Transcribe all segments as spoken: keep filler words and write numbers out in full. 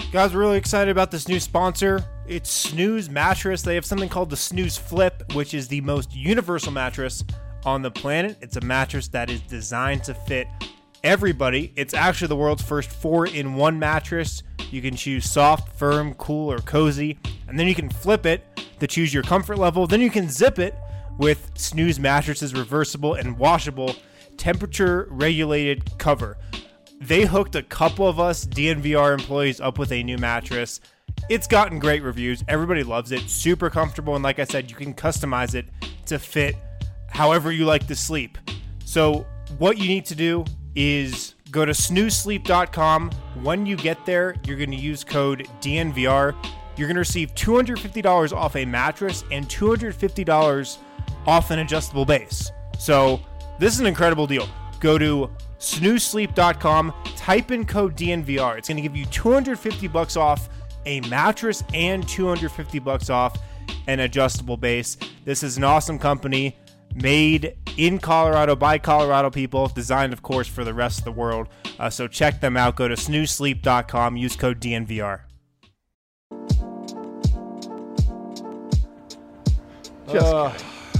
Guys, we're really excited about this new sponsor. It's Snooze Mattress. They have something called the Snooze Flip, which is the most universal mattress on the planet. It's a mattress that is designed to fit everybody. It's actually the world's first four-in-one mattress. You can choose soft, firm, cool, or cozy, and then you can flip it to choose your comfort level. Then you can zip it with Snooze Mattress's reversible and washable temperature-regulated cover. They hooked a couple of us D N V R employees up with a new mattress. It's gotten great reviews. Everybody loves it. Super comfortable. And like I said, you can customize it to fit however you like to sleep. So what you need to do is go to snooze sleep dot com. When you get there, you're going to use code D N V R. You're going to receive two hundred fifty dollars off a mattress and two hundred fifty dollars off an adjustable base. So this is an incredible deal. Go to snooze sleep dot com, type in code D N V R. It's going to give you two hundred fifty bucks off a mattress and two hundred fifty bucks off an adjustable base. This is an awesome company made in Colorado by Colorado people, designed, of course, for the rest of the world. Uh, so check them out. Go to snooze sleep dot com, use code D N V R. Just uh,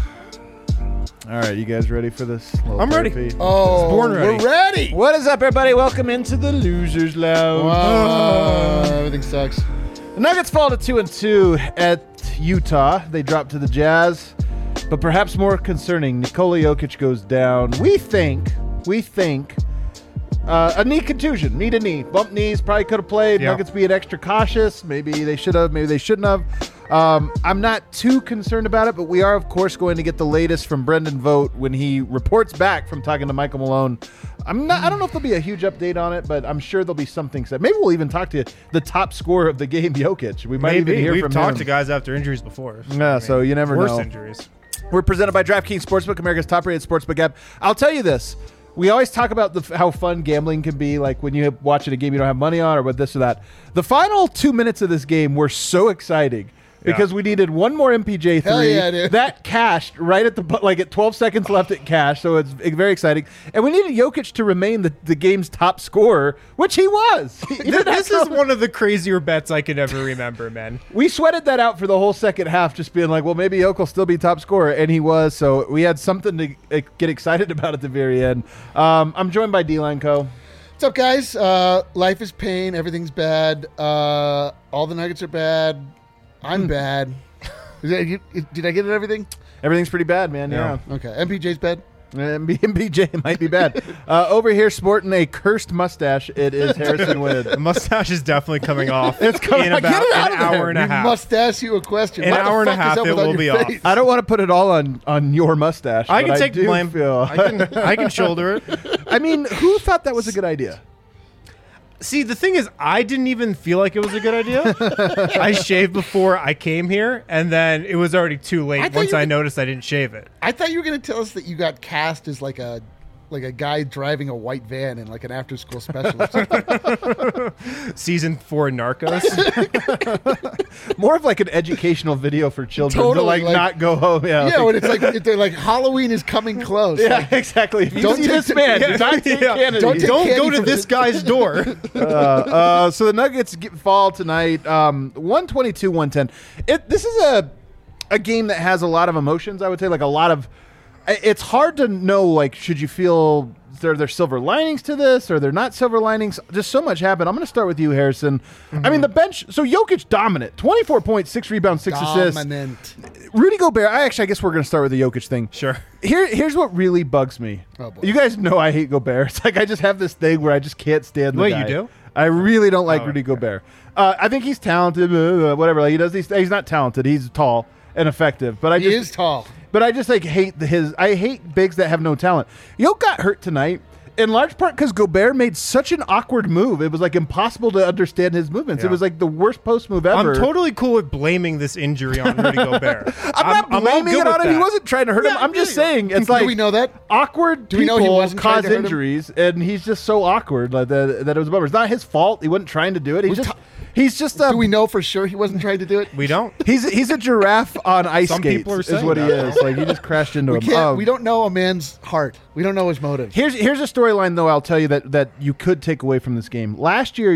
all right, you guys ready for this? I'm ready. therapy? Oh, Born ready. we're ready. What is up, everybody? Welcome into the Losers Lounge. Wow, everything sucks. The Nuggets fall to two and two at Utah. They drop to the Jazz, but perhaps more concerning, Nikola Jokic goes down. We think, we think, uh, a knee contusion, knee to knee, bump knees. Probably could have played. Yeah. Nuggets being extra cautious. Maybe they should have. Maybe they shouldn't have. Um, I'm not too concerned about it, but we are, of course, going to get the latest from Brendan Vogt when he reports back from talking to Michael Malone. I'm not. I don't know if there'll be a huge update on it, but I'm sure there'll be something said. Maybe we'll even talk to the top scorer of the game, Jokic. We might Maybe. even hear We've from talked him. to guys after injuries before. Yeah, I mean, so you never worse know. injuries. We're presented by DraftKings Sportsbook, America's top-rated sportsbook app. I'll tell you this. We always talk about the, how fun gambling can be, like when you're watching a game you don't have money on or what this or that. The final two minutes of this game were so exciting because Yeah. we needed one more M P J three. Hell yeah, dude. That cashed right at the bu- like at twelve seconds left it cashed, so it's very exciting. And we needed Jokic to remain the, the game's top scorer, which he was. He didn't have This to- is one of the crazier bets I could ever remember, man. We sweated that out for the whole second half, just being like, well, maybe Jokic will still be top scorer, and he was. So we had something to uh, get excited about at the very end. Um, I'm joined by D-Line Co. What's up, guys? Uh, life is pain. Everything's bad. Uh, all the Nuggets are bad. I'm bad. Is that, you, did I get it? Everything? Everything's pretty bad, man. Yeah. Yeah. Okay. M P J's bad. M B J might be bad. uh, over here, sporting a cursed mustache, it is Harrison Wood. The mustache is definitely coming off. It's coming- in get about it out an of there. hour and a We half. must ask you a question. An Why the hour and a fuck is half, that it without will your be off. face? I don't want to put it all on, on your mustache. I but can take do blame. Feel, I can I can shoulder it. I mean, who thought that was a good idea? See, the thing is, I didn't even feel like it was a good idea. I shaved before I came here, and then it was already too I late thought once you I were- noticed I didn't shave it. I thought you were going to tell us that you got cast as like a like a guy driving a white van in like an after school special or something. Season four Narcos. More of like an educational video for children to Totally, like, like- not go home. Yeah, Yeah, like- when it's like if they're like Halloween is coming close. yeah, Like, exactly. If you Don't see take this the- man, Yeah, do not take yeah. Kennedy. Don't take Don't candy go to from this the- guy's door. uh, uh, so the Nuggets get, fall tonight, um, one twenty-two one ten. It, this is a a game that has a lot of emotions, I would say, like a lot of I- it's hard to know, like, should you feel there there silver linings to this or they're not silver linings? Just so much happened. I'm going to start with you, Harrison. Mm-hmm. I mean, the bench, so Jokic dominant, twenty-four points, six rebounds, six assists. Dominant. Rudy Gobert, I actually, I guess we're going to start with the Jokic thing. Sure. Here, here's what really bugs me. Oh, boy. You guys know I hate Gobert. It's like I just have this thing where I just can't stand the Wait, guy. you do? I really don't like Oh, Rudy okay. Gobert. Uh, I think he's talented, blah, blah, blah, whatever. Like he does these. He's not talented. He's tall and effective. But I He just is tall. But I just like hate the, his. I hate bigs that have no talent. Yoke got hurt tonight. In large part because Gobert made such an awkward move. It was like impossible to understand his movements. Yeah. It was like the worst post move ever. I'm totally cool with blaming this injury on Rudy Gobert. I'm not all blaming good it on with him. He that. wasn't trying to hurt him. Yeah, I'm just yeah, yeah. saying it's Do like we know that? awkward Do we know he people wasn't trying cause to hurt him? injuries, and he's just so awkward like that, that it was a bummer. It's not his fault. He wasn't trying to do it. He's We just ta- he's just a Do we know for sure he wasn't trying to do it? We don't. he's he's a giraffe on ice Some skates. people are is saying what he that. is. Like he just crashed into We him. can't. Um, we don't know a man's heart. We don't know his motive. Here's here's a storyline though. I'll tell you that that you could take away from this game. Last year,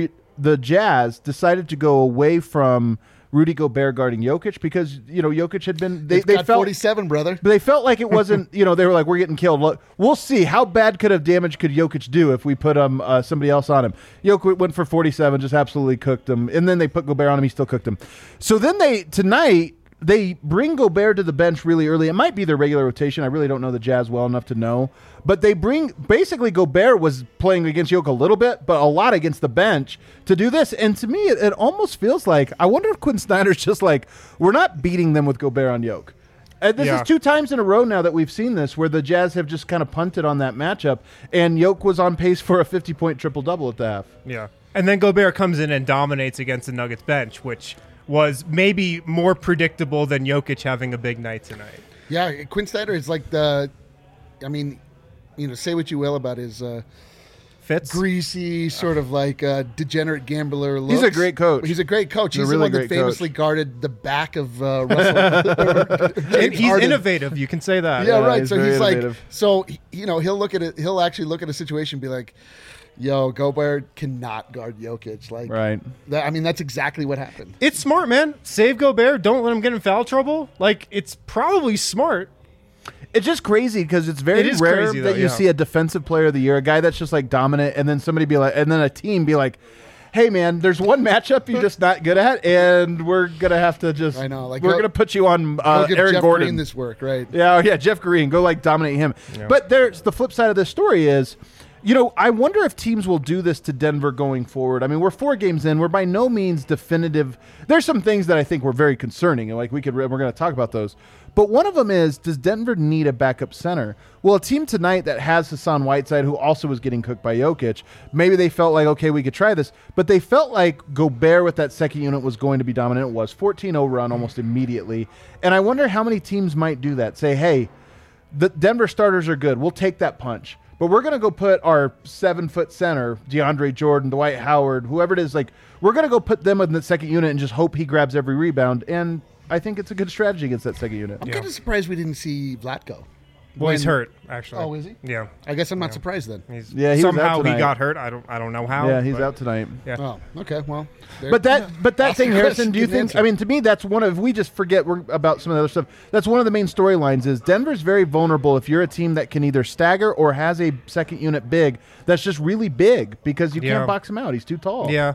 the Jazz decided to go away from Rudy Gobert guarding Jokic because, you know, Jokic had been, they, He's they got felt, forty-seven, brother. but they felt like it wasn't, you know, they were like, we're getting killed. Look, we'll see. How bad could of damage could Jokic do if we put um, uh, somebody else on him? Jokic went for forty-seven, just absolutely cooked him. And then they put Gobert on him. He still cooked him. So then they, tonight, they bring Gobert to the bench really early. It might be their regular rotation. I really don't know the Jazz well enough to know. But they bring, basically Gobert was playing against Jokic a little bit, but a lot against the bench to do this. And to me, it, it almost feels like, I wonder if Quinn Snyder's just like, we're not beating them with Gobert on Jokic. And this Yeah. is two times in a row now that we've seen this where the Jazz have just kind of punted on that matchup. And Jokic was on pace for a fifty-point triple-double at the half. Yeah. And then Gobert comes in and dominates against the Nuggets bench, which was maybe more predictable than Jokic having a big night tonight. Yeah, Quinn Snyder is like the, I mean, you know, say what you will about his uh, Fits? greasy, sort of like uh, degenerate gambler looks. He's a great coach. He's a great coach. He's a He's, really the one that great famously coach. guarded the back of uh, Russell. And James he's Harden. innovative. You can say that. Yeah, Yeah, right. he's So very he's like, innovative. so he- you know, he'll look at it. He'll actually look at a situation and be like, "Yo, Gobert cannot guard Jokic." Like, Right. that, I mean, that's exactly what happened. It's smart, man. Save Gobert. Don't let him get in foul trouble. Like, it's probably smart. It's just crazy because it's very It is rare crazy, that though, you yeah. see a defensive player of the year, a guy that's just like dominant, and then somebody be like, and then a team be like, "Hey, man, there's one matchup you're just not good at, and we're gonna have to just, I know, like, we're go- gonna put you on Go uh, give Aaron Jeff Gordon." Green this work, right? Yeah, oh, yeah, Jeff Green, go like dominate him. But there's the flip side of this story is, you know, I wonder if teams will do this to Denver going forward. I mean, we're four games in. We're by no means definitive. There's some things that I think were very concerning, and like we could, we're going to talk about those. But one of them is, does Denver need a backup center? Well, a team tonight that has Hassan Whiteside, who also was getting cooked by Jokic, maybe they felt like, okay, we could try this. But they felt like Gobert with that second unit was going to be dominant. It was fourteen oh run almost immediately. And I wonder how many teams might do that. Say, hey, the Denver starters are good. We'll take that punch. But we're going to go put our seven-foot center, DeAndre Jordan, Dwight Howard, whoever it is, like, we're going to go put them in the second unit and just hope he grabs every rebound. And I think it's a good strategy against that second unit. I'm Yeah. kind of surprised we didn't see Vlatko. Well, he's When- hurt, actually. Oh, is he? Yeah. I guess I'm not surprised then. He's, Yeah, he was out somehow he tonight. got hurt. I don't I don't know how. Yeah, he's but- out tonight. Yeah. Oh, okay. Well, there- But that, but that Ask thing, the Harrison. question, Do you get an think? answer. I mean, to me, that's one of. If we just forget we're, about some of the other stuff, that's one of the main storylines. Is Denver's very vulnerable if you're a team that can either stagger or has a second unit big that's just really big because you Yeah. can't box him out. He's too tall. Yeah.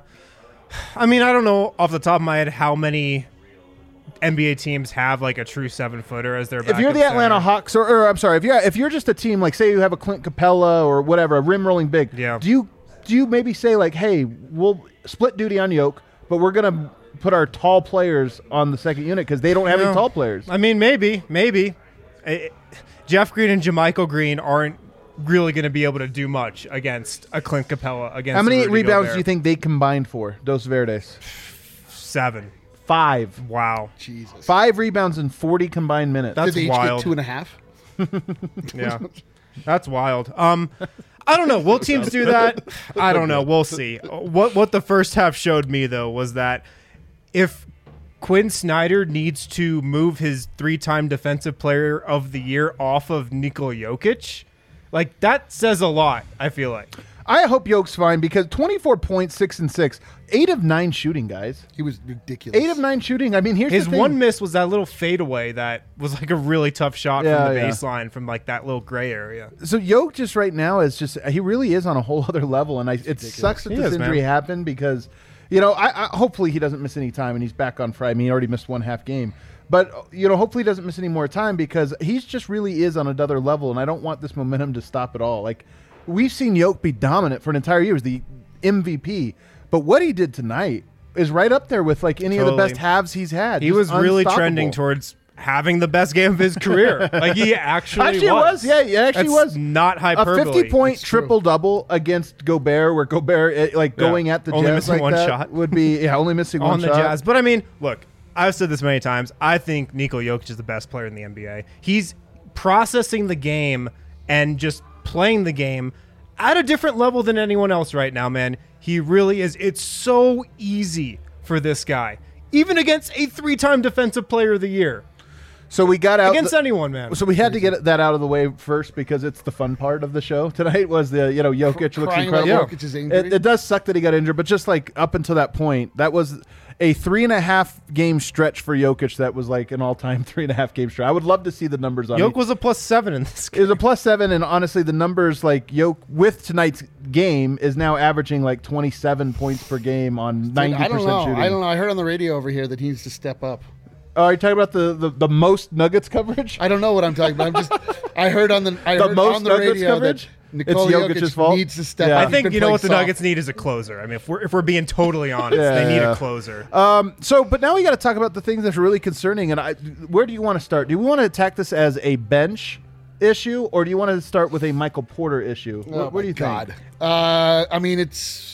I mean, I don't know off the top of my head how many N B A teams have like a true seven footer as their If you're backup the Atlanta center. Hawks, or, or I'm sorry, if you're if you're just a team like say you have a Clint Capella or whatever, a rim rolling big, Yeah. do you do you maybe say like, hey, we'll split duty on Yoke, but we're gonna put our tall players on the second unit because they don't have No. any tall players. I mean, maybe, maybe. Eh, Jeff Green and Jermichael Green aren't really going to be able to do much against a Clint Capella. Against How many Rudy rebounds Gobert. do you think they combined for Dos Verdes? Seven. Five. Wow. Jesus. Five rebounds in forty combined minutes. That's Did they each wild. get two and a half? Yeah. That's wild. Um, I don't know. Will teams do that? I don't know. We'll see. What what the first half showed me though was that if Quinn Snyder needs to move his three-time Defensive Player of the Year off of Nikola Jokic, like that says a lot. I feel like. I hope Yoke's fine because twenty-four points, six and six, eight of nine shooting, guys. He was ridiculous. Eight of nine shooting. I mean, here's His the thing. one miss was that little fadeaway that was like a really tough shot Yeah, from the yeah. baseline from like that little gray area. So Yoke just right now is just he really is on a whole other level, and I, it sucks that He this is, injury man. happened because, you know, I, I hopefully he doesn't miss any time and he's back on Friday. I mean, he already missed one half game, but you know, hopefully he doesn't miss any more time because he's just really is on another level, and I don't want this momentum to stop at all. Like we've seen Yoke be dominant for an entire year, he was the M V P, but what he did tonight is right up there with like any of the Totally. best halves he's had. He Just was really unstoppable. trending towards having the best game of his career. Like he actually, Actually, it was. Yeah, it actually That's was. not A hyperbole. fifty-point It's true. triple-double against Gobert, where Gobert eh, like Yeah. going at the Only Jazz missing like one that shot. would be yeah, only missing on one the shot. Jazz. But I mean, look, I've said this many times. I think Nikola Jokic is the best player in the N B A. He's processing the game and just playing the game at a different level than anyone else right now, man. He really is. It's so easy for this guy, even against a three-time Defensive Player of the Year. So we got out against the- anyone, man. So we had to get that out of the way first because it's the fun part of the show tonight. Was the you know Jokic looks Crying about incredible. Jokic's injury. It, it does suck that he got injured, but just like up until that point, that was a three and a half game stretch for Jokic. That was like an all time three and a half game stretch. I would love to see the numbers on Jokic it. was a plus seven in this It game. was a plus seven, and honestly, the numbers like Jokic with tonight's game is now averaging like twenty-seven points per game on ninety I percent don't know. shooting. I don't know. I heard on the radio over here that he needs to step up. Oh, are you talking about the, the, the most Nuggets coverage? I don't know what I'm talking about. I'm just. I heard on the. I The heard most on the Nuggets radio coverage? that Nikola It's Jokic's Jokic fault? needs to step Yeah. up. I He's think been you know what the playing Nuggets soft. need is a closer. I mean, if we're if we're being totally honest, Yeah, they need yeah. a closer. Um, so, but now we got to talk about the things that are really concerning. And I, where do you want to start? Do we want to attack this as a bench issue, or do you want to start with a Michael Porter issue? Oh what, what do you my God. think? Uh, I mean, it's.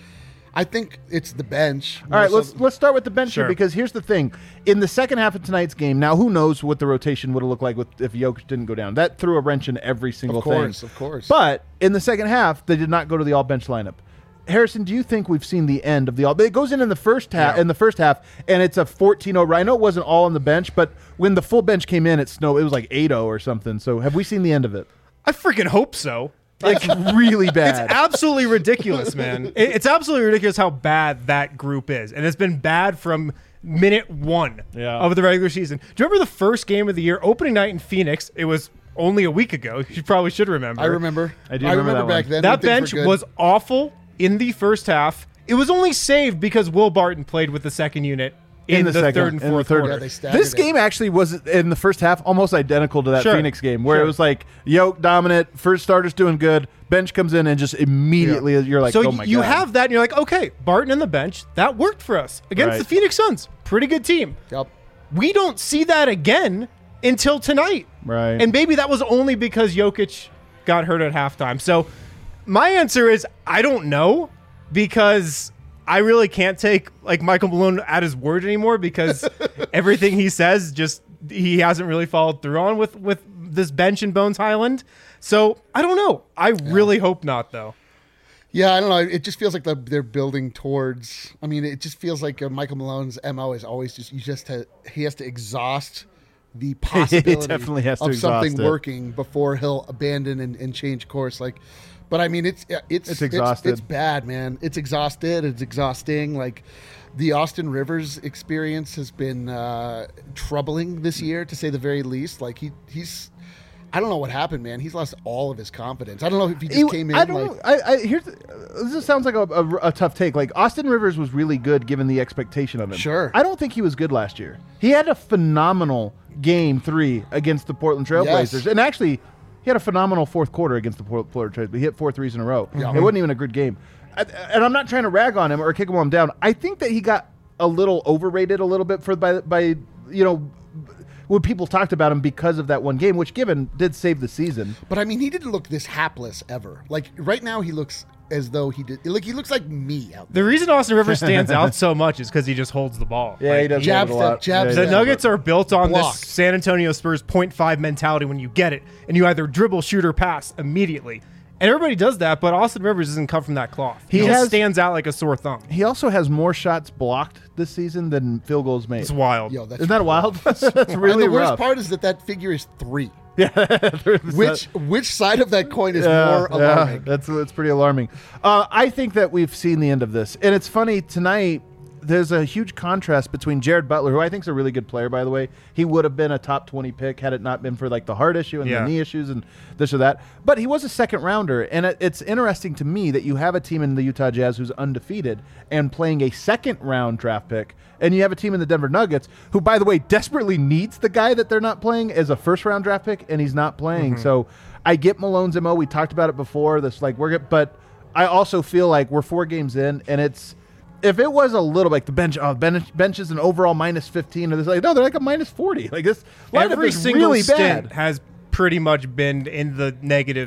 I think it's the bench. All right, more let's so- let's start with the bench Sure. here because here's the thing: in the second half of tonight's game, now who knows what the rotation would have looked like with, if Jokic didn't go down? That threw a wrench in every single Of course, thing. of course. But in the second half, they did not go to the all bench lineup. Harrison, do you think we've seen the end of the all? It goes in in the first half, Yeah. in the first half, and it's a fourteen oh. I know it wasn't all on the bench, but when the full bench came in, it snow. It was like eight oh or something. So have we seen the end of it? I freaking hope so. It's really bad. It's absolutely ridiculous, man. It- It's absolutely ridiculous how bad that group is, and it's been bad from minute one Yeah. of the regular season. Do you remember the first game of the year, opening night in Phoenix? It was only a week ago. You probably should remember. I remember. I do remember that back one. then. That when things bench were good. was awful in the first half. It was only saved because Will Barton played with the second unit in, the, second- third and in the fourth third- quarter. Yeah, they staggered This it. game actually was in the first half almost identical to that Sure. Phoenix game, where Sure. it was like Yoke dominant, first starter's doing good, bench comes in and just immediately you're like, so oh my you god. have that, and you're like, okay, Barton and the bench, that worked for us against Right. the Phoenix Suns. Pretty good team. Yep. We don't see that again until tonight. Right. And maybe that was only because Jokic got hurt at halftime. So my answer is I don't know, because I really can't take like Michael Malone at his word anymore, because everything he says just he hasn't really followed through on with with this bench in Bones Highland. So I don't know. I really hope not, though. Yeah, I don't know. It just feels like the, they're building towards. I mean, it just feels like uh, Michael Malone's M O is always just you just ha, he has to exhaust the possibility definitely has to of something exhaust it. working before he'll abandon and, and change course. Like, but I mean, it's it's It's exhausted. It's, bad, man. It's exhausted. It's exhausting. Like, the Austin Rivers experience has been uh, troubling this year, to say the very least. Like he he's. I don't know what happened, man. He's lost all of his confidence. I don't know if he just He- came in I don't like know. I, I here's this just sounds like a, a, a tough take. Like Austin Rivers was really good given the expectation of him. Sure. I don't think he was good last year. He had a phenomenal game three against the Portland Trailblazers, Yes. and actually he had a phenomenal fourth quarter against the Port- Portland Trailblazers. He hit four threes in a row. Yeah. It wasn't even a good game. I, and I'm not trying to rag on him or kick him while I'm down. I think that he got a little overrated a little bit for by by you know. when people talked about him because of that one game, which given did save the season. But I mean, he didn't look this hapless ever. Like right now, he looks as though he did. Like he looks like me out there. The reason Austin Rivers stands out so much is because he just holds the ball. Yeah, Like, he does jab move it a step, lot. jab Yeah, he The step. does. Nuggets are built on Blocked. this San Antonio Spurs point five mentality when you get it, and you either dribble, shoot, or pass immediately. And everybody does that, but Austin Rivers doesn't come from that cloth. He, He just has- stands out like a sore thumb. He also has more shots blocked this season than field goals made. It's wild. Yo, that's Isn't that wild? That's and really the worst rough. part is that that figure is three. Yeah, Which which side of that coin is Yeah, more yeah, alarming? that's that's pretty alarming. Uh, I think that we've seen the end of this, and it's funny tonight. There's a huge contrast between Jared Butler, who I think is a really good player, by the way. He would have been a top twenty pick had it not been for like the heart issue and Yeah. the knee issues and this or that. But he was a second rounder, and it, it's interesting to me that you have a team in the Utah Jazz who's undefeated and playing a second round draft pick, and you have a team in the Denver Nuggets who, by the way, desperately needs the guy that they're not playing as a first round draft pick, and he's not playing. So I get Malone's M O. We talked about it before. This like we're get, but I also feel like we're four games in, and it's. If it was a little like the bench, oh, bench, bench is an overall minus fifteen, or this like no, they're like a minus forty. Like this, lineup Every is single really stint bad. has pretty much been in the negatives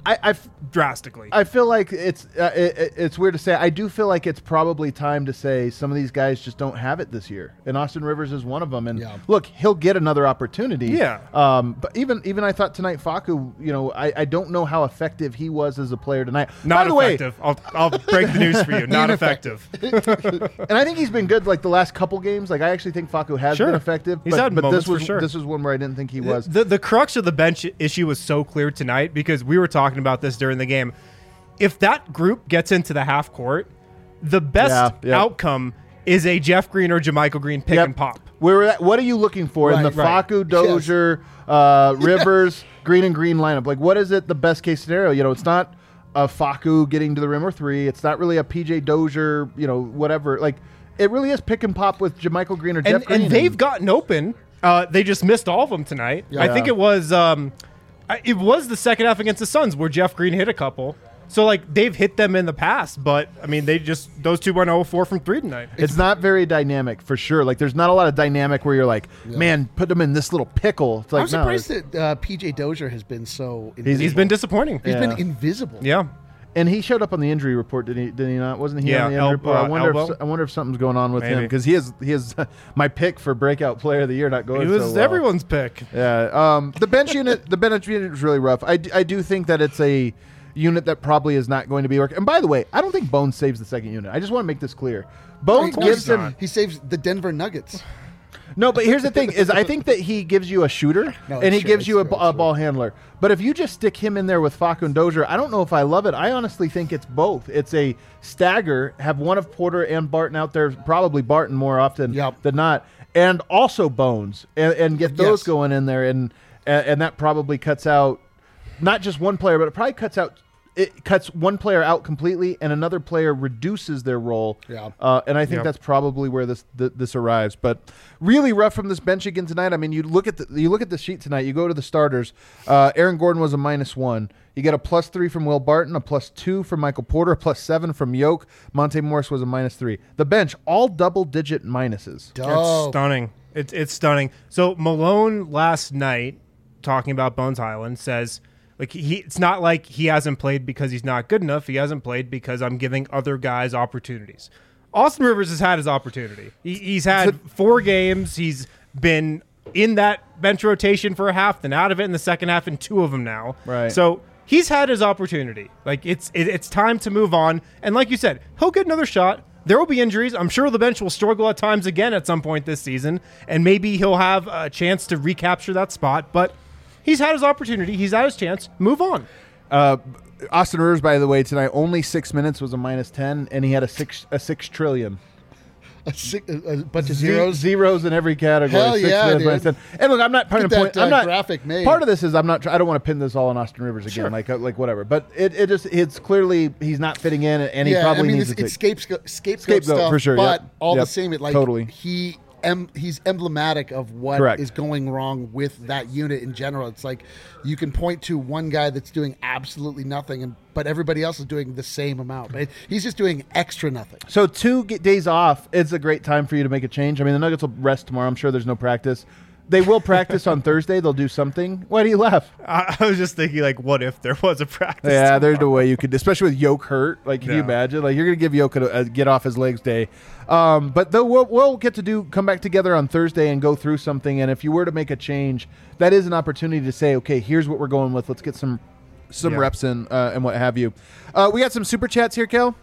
I, I f- drastically. I feel like it's uh, it, it's weird to say. I do feel like it's probably time to say some of these guys just don't have it this year, and Austin Rivers is one of them. And Yeah. look, he'll get another opportunity. Yeah. Um. But even even I thought tonight, Facu. You know, I, I don't know how effective he was as a player tonight. Not By the way, effective. I'll, I'll break the news for you. Not effective. and I think he's been good like the last couple games. Like I actually think Facu has Sure. been effective. He's but, had but moments this was for sure. this was one where I didn't think he was. The, the crux of the bench issue was so clear tonight because we were talking about this during the game. If that group gets into the half court, the best Yeah, yeah. outcome is a Jeff Green or Jermichael Green pick Yep. and pop. Where we're at, what are you looking for in Right, the right. Facu, Dozier, uh, Rivers, Green and Green lineup? Like, what is it? The best case scenario? You know, it's not a Facu getting to the rim or three. It's not really a P J Dozier. You know, whatever. Like, it really is pick and pop with Jermichael Green or And, Jeff Green. and they've gotten open. Uh, they just missed all of them tonight. I think it was um, I- it was the second half against the Suns where Jeff Green hit a couple. So like they've hit them in the past, but I mean they just those two went oh four from three tonight. It's not very dynamic for sure. Like, there's not a lot of dynamic where you're like, man, put them in this little pickle. It's like, I'm no, surprised that uh, P J Dozier has been so. He's- Invisible. He's been disappointing. He's Yeah. been invisible. Yeah. And he showed up on the injury report, did he? Did he not? Wasn't he Yeah, on the el- injury report? I uh, wonder. elbow? If, I wonder if something's going on with him Maybe. because he is he is my pick for breakout player of the year. Not going. He was so well. everyone's pick. Yeah. Um, the bench unit, the bench unit is really rough. I, d- I do think that it's a unit that probably is not going to be working. And by the way, I don't think Bones saves the second unit. I just want to make this clear. Bones Of gives course him not. He saves the Denver Nuggets. no, but here's the thing: is I think that he gives you a shooter No, and he it's true, gives it's you a, true, b- it's a true. ball handler. But if you just stick him in there with Facu and Dozier, I don't know if I love it. I honestly think it's both. It's a stagger. Have one of Porter and Barton out there, probably Barton more often Yep. than not, and also Bones, and, and get those Yes. going in there, and and and that probably cuts out not just one player, but it probably cuts out. It cuts one player out completely, and another player reduces their role. Yeah. Uh, and I think Yeah. that's probably where this th- this arrives. But really rough from this bench again tonight. I mean, you look at the you look at the sheet tonight. You go to the starters. Uh, Aaron Gordon was a minus one. You get a plus three from Will Barton, a plus two from Michael Porter, a plus seven from Yoke. Monte Morris was a minus three. The bench all double digit minuses. It's Dope. stunning. It's it's stunning. So Malone last night, talking about Bones Highland, says like he it's not like he hasn't played because he's not good enough. He hasn't played because I'm giving other guys opportunities. Austin Rivers has had his opportunity. He, he's had four games. He's been in that bench rotation for a half, then out of it in the second half, in two of them now. Right. So he's had his opportunity. Like it's it, it's time to move on. And like you said, he'll get another shot. There will be injuries. I'm sure the bench will struggle at times again at some point this season, and maybe he'll have a chance to recapture that spot. But he's had his opportunity. He's had his chance. Move on. Uh, Austin Rivers, by the way, tonight only six minutes was a minus ten, and he had a six a six trillion. A, six, a, a bunch of Ze- zeros. zeros in every category. Hell Six yeah, minutes, dude. minus ten. And look, I'm not trying Get to point. that, uh, I'm not graphic made. Part of this is I'm not. Try, I don't want to pin this all on Austin Rivers again. Sure. Like uh, like whatever. But it, it just it's clearly he's not fitting in, and he yeah, probably I mean, needs it's, to. it's take- scapegoat, scapegoat, Scapegoat, stuff, for sure, but yep, all yep, the same, it like totally. he em, he's emblematic of what is Correct. going wrong with that unit in general. It's like you can point to one guy that's doing absolutely nothing, and but everybody else is doing the same amount. But he's just doing extra nothing. So two g- days off, it's a great time for you to make a change. I mean, the Nuggets will rest tomorrow. I'm sure there's no practice. They will practice on Thursday. They'll do something. Why do you laugh? I, I was just thinking, like, what if there was a practice? Yeah, there's no way you could, especially with Yoke hurt. Like, can you Yeah. imagine? Like, you're gonna give Yoke a, a get off his legs day. Um, but though we'll, we'll get to do come back together on Thursday and go through something. And if you were to make a change, that is an opportunity to say, okay, here's what we're going with. Let's get some some Yeah. reps in uh, and what have you. Uh, we got some super chats here, Kel.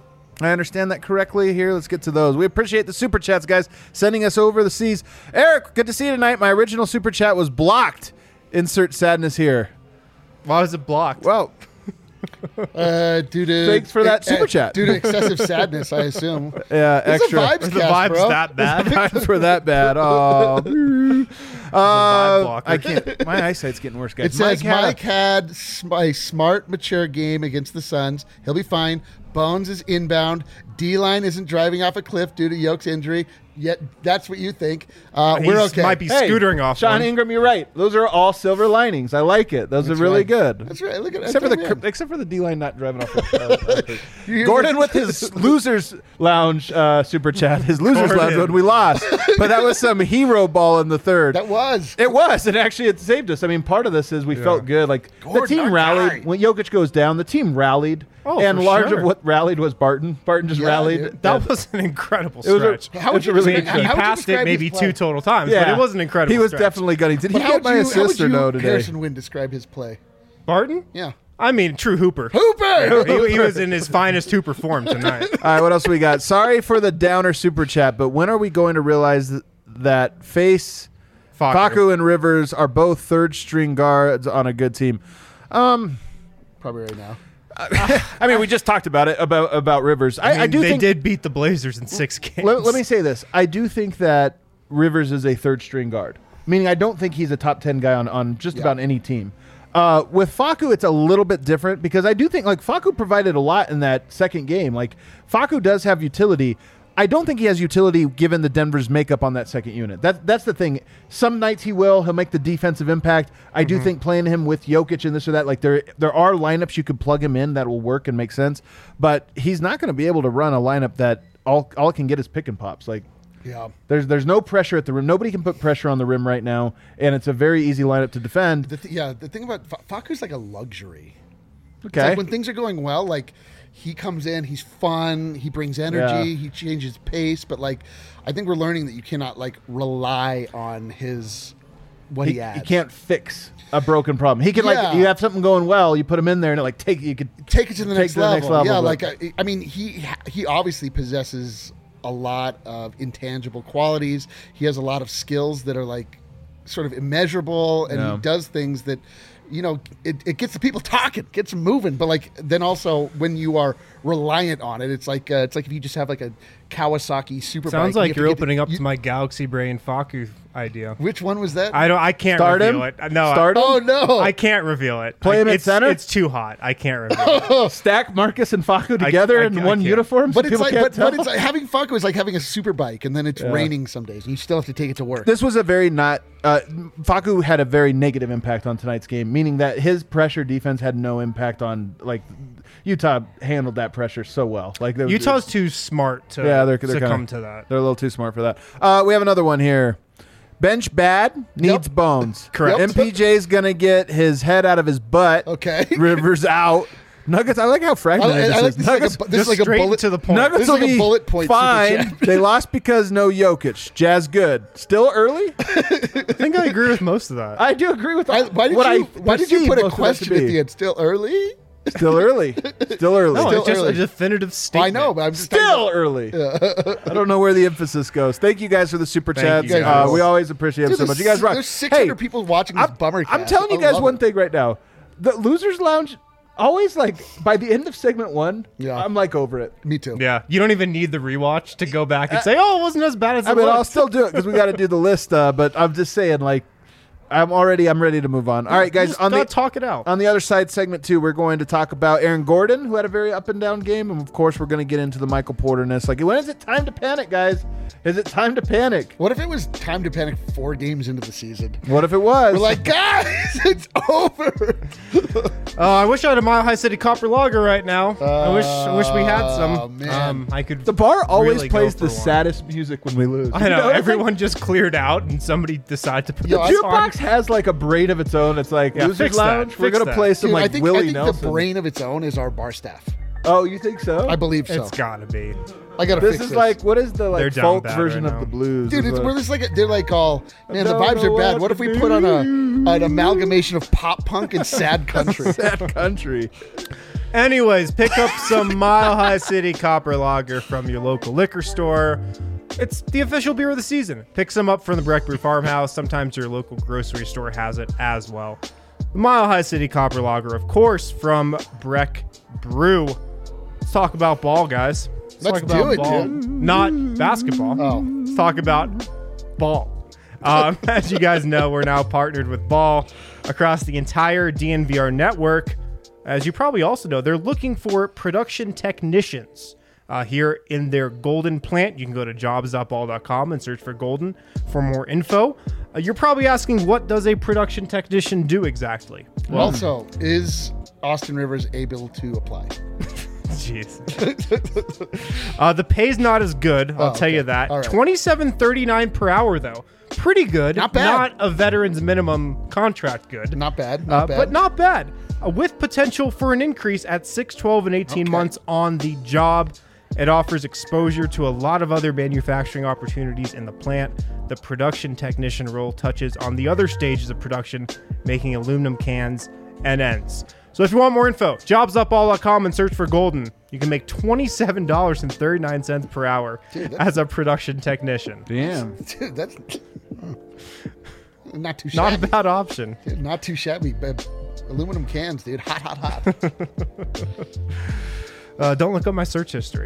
I understand that correctly here. Let's get to those. We appreciate the super chats, guys, sending us over the seas. Eric, good to see you tonight. My original super chat was blocked. Insert sadness here. Why was it blocked? Well, Uh, due to Thanks for that uh, super chat. Due to excessive sadness, I assume. yeah, It's extra. a vibes the cast, vibes bro. that bad? Vibes were that bad. Oh, vibe uh, blocker. I can't. My eyesight's getting worse, guys. It says Mike had a- Mike had sm- a smart, mature game against the Suns. He'll be fine. Bones is inbound. D-line isn't driving off a cliff due to Yoke's injury. Yet that's what you think. Uh, He's we're okay. might be Hey, scootering off. Sean one. Ingram, you're right. Those are all silver linings. I like it. Those That's are really right. good. That's right. Look at Except for that's the right, man. except for the D line not driving off. The, uh, You hear Gordon this? with his losers lounge uh, super chat, his losers Gordon. lounge when we lost, but that was some hero ball in the third. That was. It was, and actually, it saved us. I mean, part of this is we felt good. Like Gordon, the team our rallied guy. when Jokic goes down. The team rallied, Oh, and for large sure. of what rallied was Barton. Barton just Yeah, rallied. dude. That And was an incredible it was a- stretch. How would it's you a really describe- good he how would you passed it describe maybe his two play? total times, but it was an incredible He was stretch. definitely gunning. Did But he how get would my you, how would assist or you, no today? Harrison Wind, describe his play? Barton? Yeah. I mean, true hooper. Hooper! he, he was in his finest hooper form tonight. All right, what else we got? Sorry for the downer super chat, but when are we going to realize th- that Face, Facu. Facu, and Rivers are both third string guards on a good team? Um, Probably right now. I mean, we just talked about it about about Rivers. I, I, mean, I do they think. did beat the Blazers in six games. Let, let me say this: I do think that Rivers is a third string guard. Meaning, I don't think he's a top ten guy on on just Yeah. about any team. Uh, with Facu, it's a little bit different because I do think like Facu provided a lot in that second game. Like Facu does have utility. I don't think he has utility given the Denver's makeup on that second unit. That that's the thing. Some nights he will. He'll make the defensive impact. I do think playing him with Jokic and this or that, like there there are lineups you could plug him in that will work and make sense. But he's not going to be able to run a lineup that all all it can get is pick and pops. Like Yeah. there's there's no pressure at the rim. Nobody can put pressure on the rim right now, and it's a very easy lineup to defend. The th- yeah, the thing about F- Facu's like a luxury. It's Okay. like when things are going well, like he comes in, he's fun, he brings energy, Yeah. he changes pace, but like I think we're learning that you cannot like rely on his what he, he, adds. he can't fix a broken problem. He can like Yeah. you have something going well, you put him in there, and it like take you could take it to the, take next, to the level. next level, Yeah, but- like I, I mean, he he obviously possesses a lot of intangible qualities. He has a lot of skills that are like sort of immeasurable, and Yeah. he does things that, you know, it, it gets the people talking, gets them moving. But like then also when you are reliant on it, it's like uh, it's like if you just have like a Kawasaki Superbike. Sounds you like have to you're get the- opening up you- to my Galaxy Brain Facu idea. Which one was that? I don't. I can't start reveal him. it. No. start him. oh no! I, I can't reveal it. Play I, him at it's, center? It's too hot. I can't reveal it. Stack Marcus and Facu together I- in I one can't. uniform, so but it's people like, can't but, tell. but it's like having Facu is like having a super bike, and then it's Yeah. raining some days, and you still have to take it to work. This was a very not. Uh, Facu had a very negative impact on tonight's game, meaning that his pressure defense had no impact on like Utah handled that pressure so well. Like there was- Utah's too smart to Yeah, they're- they're succumb kinda- to that. They're a little too smart for that. Uh, we have another one here. Bench bad needs Yep. bones. Correct. Yep. M P J's gonna get his head out of his butt. Okay. Rivers out. Nuggets. I like how I, fragmented I, I this like is. this, is like Nuggets. a, this Just is like a straight bullet to the point. Nuggets This is will like a be bullet point super fine. chat. They lost because no Jokic. Jazz good. Still early. I think I agree with most of that. I do agree with I, why did what you I why did you perceive put a most of that to question at be. the end? Still early? Still early. Still early. no, still it's just early. a definitive I statement. know, but I'm just Still talking early. I don't know where the emphasis goes. Thank you guys for the super Thank chats. you Uh, guys. we always appreciate Dude, them so much. there's You guys s- rock. There's six hundred Hey, people watching this I'm, bummer. I'm cast. telling you I guys love one it. thing right now. The Losers Lounge, always like by the end of segment one, Yeah. I'm like over it. Me too. Yeah, you don't even need the rewatch to go back and say, "Oh, it wasn't as bad as I it mean, was." I'll still do it because we got to do the list. Uh, but I'm just saying, like, I'm already, I'm ready to move on. All right, guys. Just On gotta the talk it out. on the other side, segment two, we're going to talk about Aaron Gordon, who had a very up and down game, and of course, we're going to get into the Michael Porter-ness. Like, when is it time to panic, guys? Is it time to panic? What if it was time to panic four games into the season? What if it was? We're like, guys, it's over. Oh, I wish I had a Mile High City Copper Lager right now. I wish, I wish we had Oh, some. man. Um, I could. the bar always really go plays for the one. saddest music when we lose. I know, You it's like- everyone just cleared out, and somebody decided to put Yo, the I- Jukebox has like a brain of its own. It's like Yeah, Losers fix that, Lounge. We're fix gonna that. play some Dude, like I think, Willie I think Nelson. the brain of its own is our bar staff. Oh, you think so? I believe so. It's gotta be. I gotta This fix is this. like what is the They're like down folk bad version right of the now. blues? Dude, Is it's what- where this like they're like all man. The don't vibes know are bad. what What if to we put on a do. an amalgamation of pop punk and sad country? sad country. Anyways, pick up some Mile High City Copper Lager from your local liquor store. It's the official beer of the season. Pick some up from the Breck Brew Farmhouse. Sometimes your local grocery store has it as well. The Mile High City Copper Lager, of course, from Breck Brew. Let's talk about ball, guys. Let's, Let's talk about do it, ball. dude. Not basketball. Oh. Let's talk about ball. Um, as you guys know, we're now partnered with Ball across the entire D N V R network. As you probably also know, they're looking for production technicians. uh, here in their Golden plant. You can go to jobs dot ball dot com and search for Golden for more info. Uh, you're probably asking, what does a production technician do exactly? Well, also, is Austin Rivers able to apply? Jeez. uh, the pay's not as good, I'll Oh, tell okay. you that. All right. twenty-seven thirty-nine per hour, though. Pretty good. Not bad. Not a veteran's minimum contract good. Not bad. Not Uh, bad. but not bad. Uh, with potential for an increase at six, twelve, and eighteen Okay. months on the job. It offers exposure to a lot of other manufacturing opportunities in the plant. The production technician role touches on the other stages of production, making aluminum cans and ends. So if you want more info, jobs dot ball dot com and search for Golden. You can make twenty-seven dollars and thirty-nine cents per hour Dude, that's- as a production technician. Damn. Dude, that's not too Not shabby. a bad option. Dude, not too shabby. But aluminum cans, dude. Hot, hot, hot. Uh, don't look up my search history.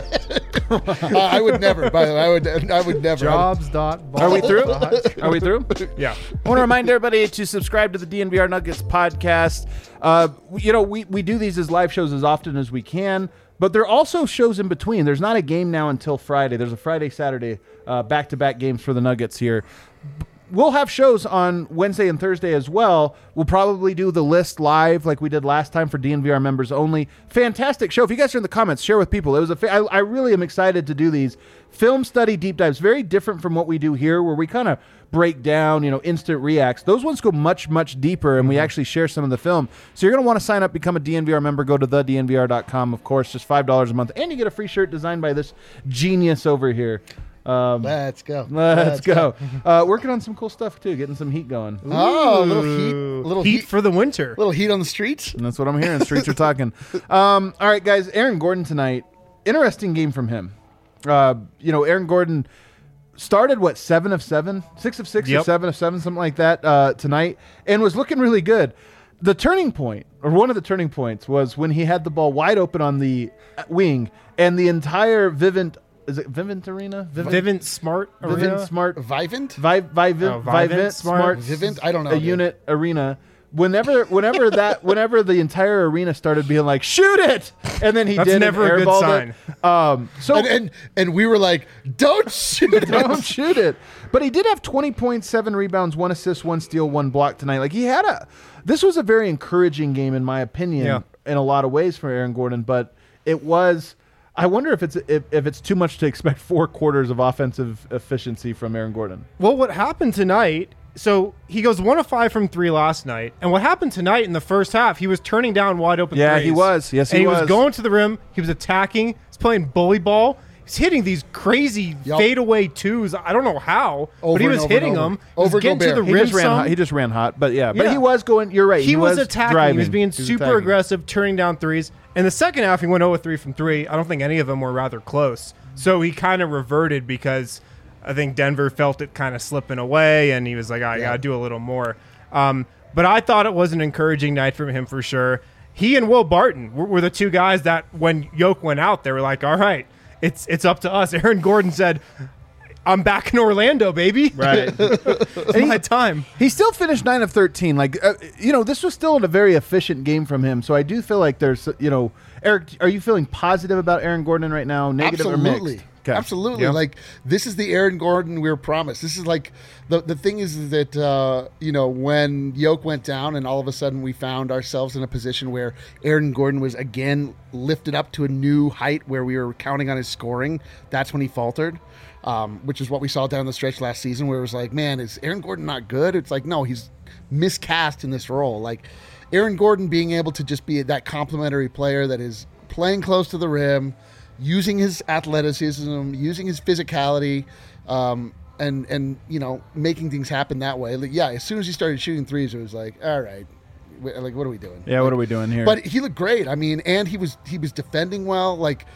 uh, I would never. By the way, I would. I would never. Jobs. dot ball Are we through? dot- Are we through? Yeah. I want to remind everybody to subscribe to the D N V R Nuggets podcast. Uh, you know, we, we do these as live shows as often as we can, but there are also shows in between. There's not a game now until Friday. There's a Friday, Saturday uh, back-to-back games for the Nuggets here. We'll have shows on Wednesday and Thursday as well. We'll probably do the list live like we did last time for D N V R members only. Fantastic show. If you guys are in the comments, share with people. It was a fa- I, I really am excited to do these film study deep dives. Very different from what we do here, where we kind of break down, you know, instant reacts. Those ones go much, much deeper, and we actually share some of the film. So you're going to want to sign up, become a D N V R member. Go to the D N V R dot com, of course, just five dollars a month. And you get a free shirt designed by this genius over here. Um, Let's go. Let's go. Uh, working on some cool stuff too, getting some heat going. Oh, a little heat. Ooh, Little heat, heat. for the winter. Little heat on the streets. And that's what I'm hearing. Streets are talking. Um, all right, guys. Aaron Gordon tonight. Interesting game from him. Uh, you know, Aaron Gordon started what seven of seven, six of six, or Yep. seven of seven, something like that uh, tonight, and was looking really good. The turning point, or one of the turning points, was when he had the ball wide open on the wing, and the entire Vivint. Is it Vivint Arena? Vivint Smart Vivint Arena. Smart. Vivint? Vi- Vivint, Oh, Vivint Vivint Smart. Smart. Vivint? I don't know. A dude. unit arena. Whenever, whenever that, whenever the entire arena started being like, shoot it, and then he That's did. never and a good airballed sign. It. Um, so And, and and we were like, don't shoot it. don't shoot it. But he did have twenty point seven rebounds, one assist, one steal, one block tonight. Like he had a. This was a very encouraging game, in my opinion, Yeah. in a lot of ways for Aaron Gordon. But it was. I wonder if it's if, if it's too much to expect four quarters of offensive efficiency from Aaron Gordon. Well, what happened tonight? So he goes one of five from three last night, and what happened tonight in the first half? He was turning down wide open. Yeah, threes. he was. Yes, and he he was was. going to the rim. He was attacking. He's playing bully ball. He's hitting these crazy Yup. fadeaway twos. I don't know how, Over but he and was over hitting and over. them. He was Over getting to Gobert. the He rim just ran. some. Hot. He just ran hot, but yeah, but Yeah. he was going. You're right. He, He, was, attacking. Driving. He was being He was super attacking. aggressive, turning down threes. In the second half, he went zero of three from three. I don't think any of them were rather close. So he kind of reverted because I think Denver felt it kind of slipping away, and he was like, I got to do a little more. Um, but I thought it was an encouraging night from him for sure. He and Will Barton were, were the two guys that when Yoke went out, they were like, all right, it's it's up to us. Aaron Gordon said, I'm back in Orlando, baby. Right. It's my time. He still finished nine of thirteen. Like, uh, you know, this was still a very efficient game from him. So I do feel like there's, you know, Eric, are you feeling positive about Aaron Gordon right now? Negative Absolutely. or mixed? Okay. Absolutely. Yeah. Like this is the Aaron Gordon we were promised. This is like the the thing is that uh, you know, when Yoke went down and all of a sudden we found ourselves in a position where Aaron Gordon was again lifted up to a new height where we were counting on his scoring. That's when he faltered. Um, which is what we saw down the stretch last season where it was like, man, is Aaron Gordon not good? It's like, no, he's miscast in this role. Like Aaron Gordon being able to just be that complementary player that is playing close to the rim, using his athleticism, using his physicality, um, and and you know making things happen that way. Like, yeah, as soon as he started shooting threes, it was like, all right, wh- like what are we doing? Yeah, what are we doing here? But he looked great. I mean, and he was he was defending well. Like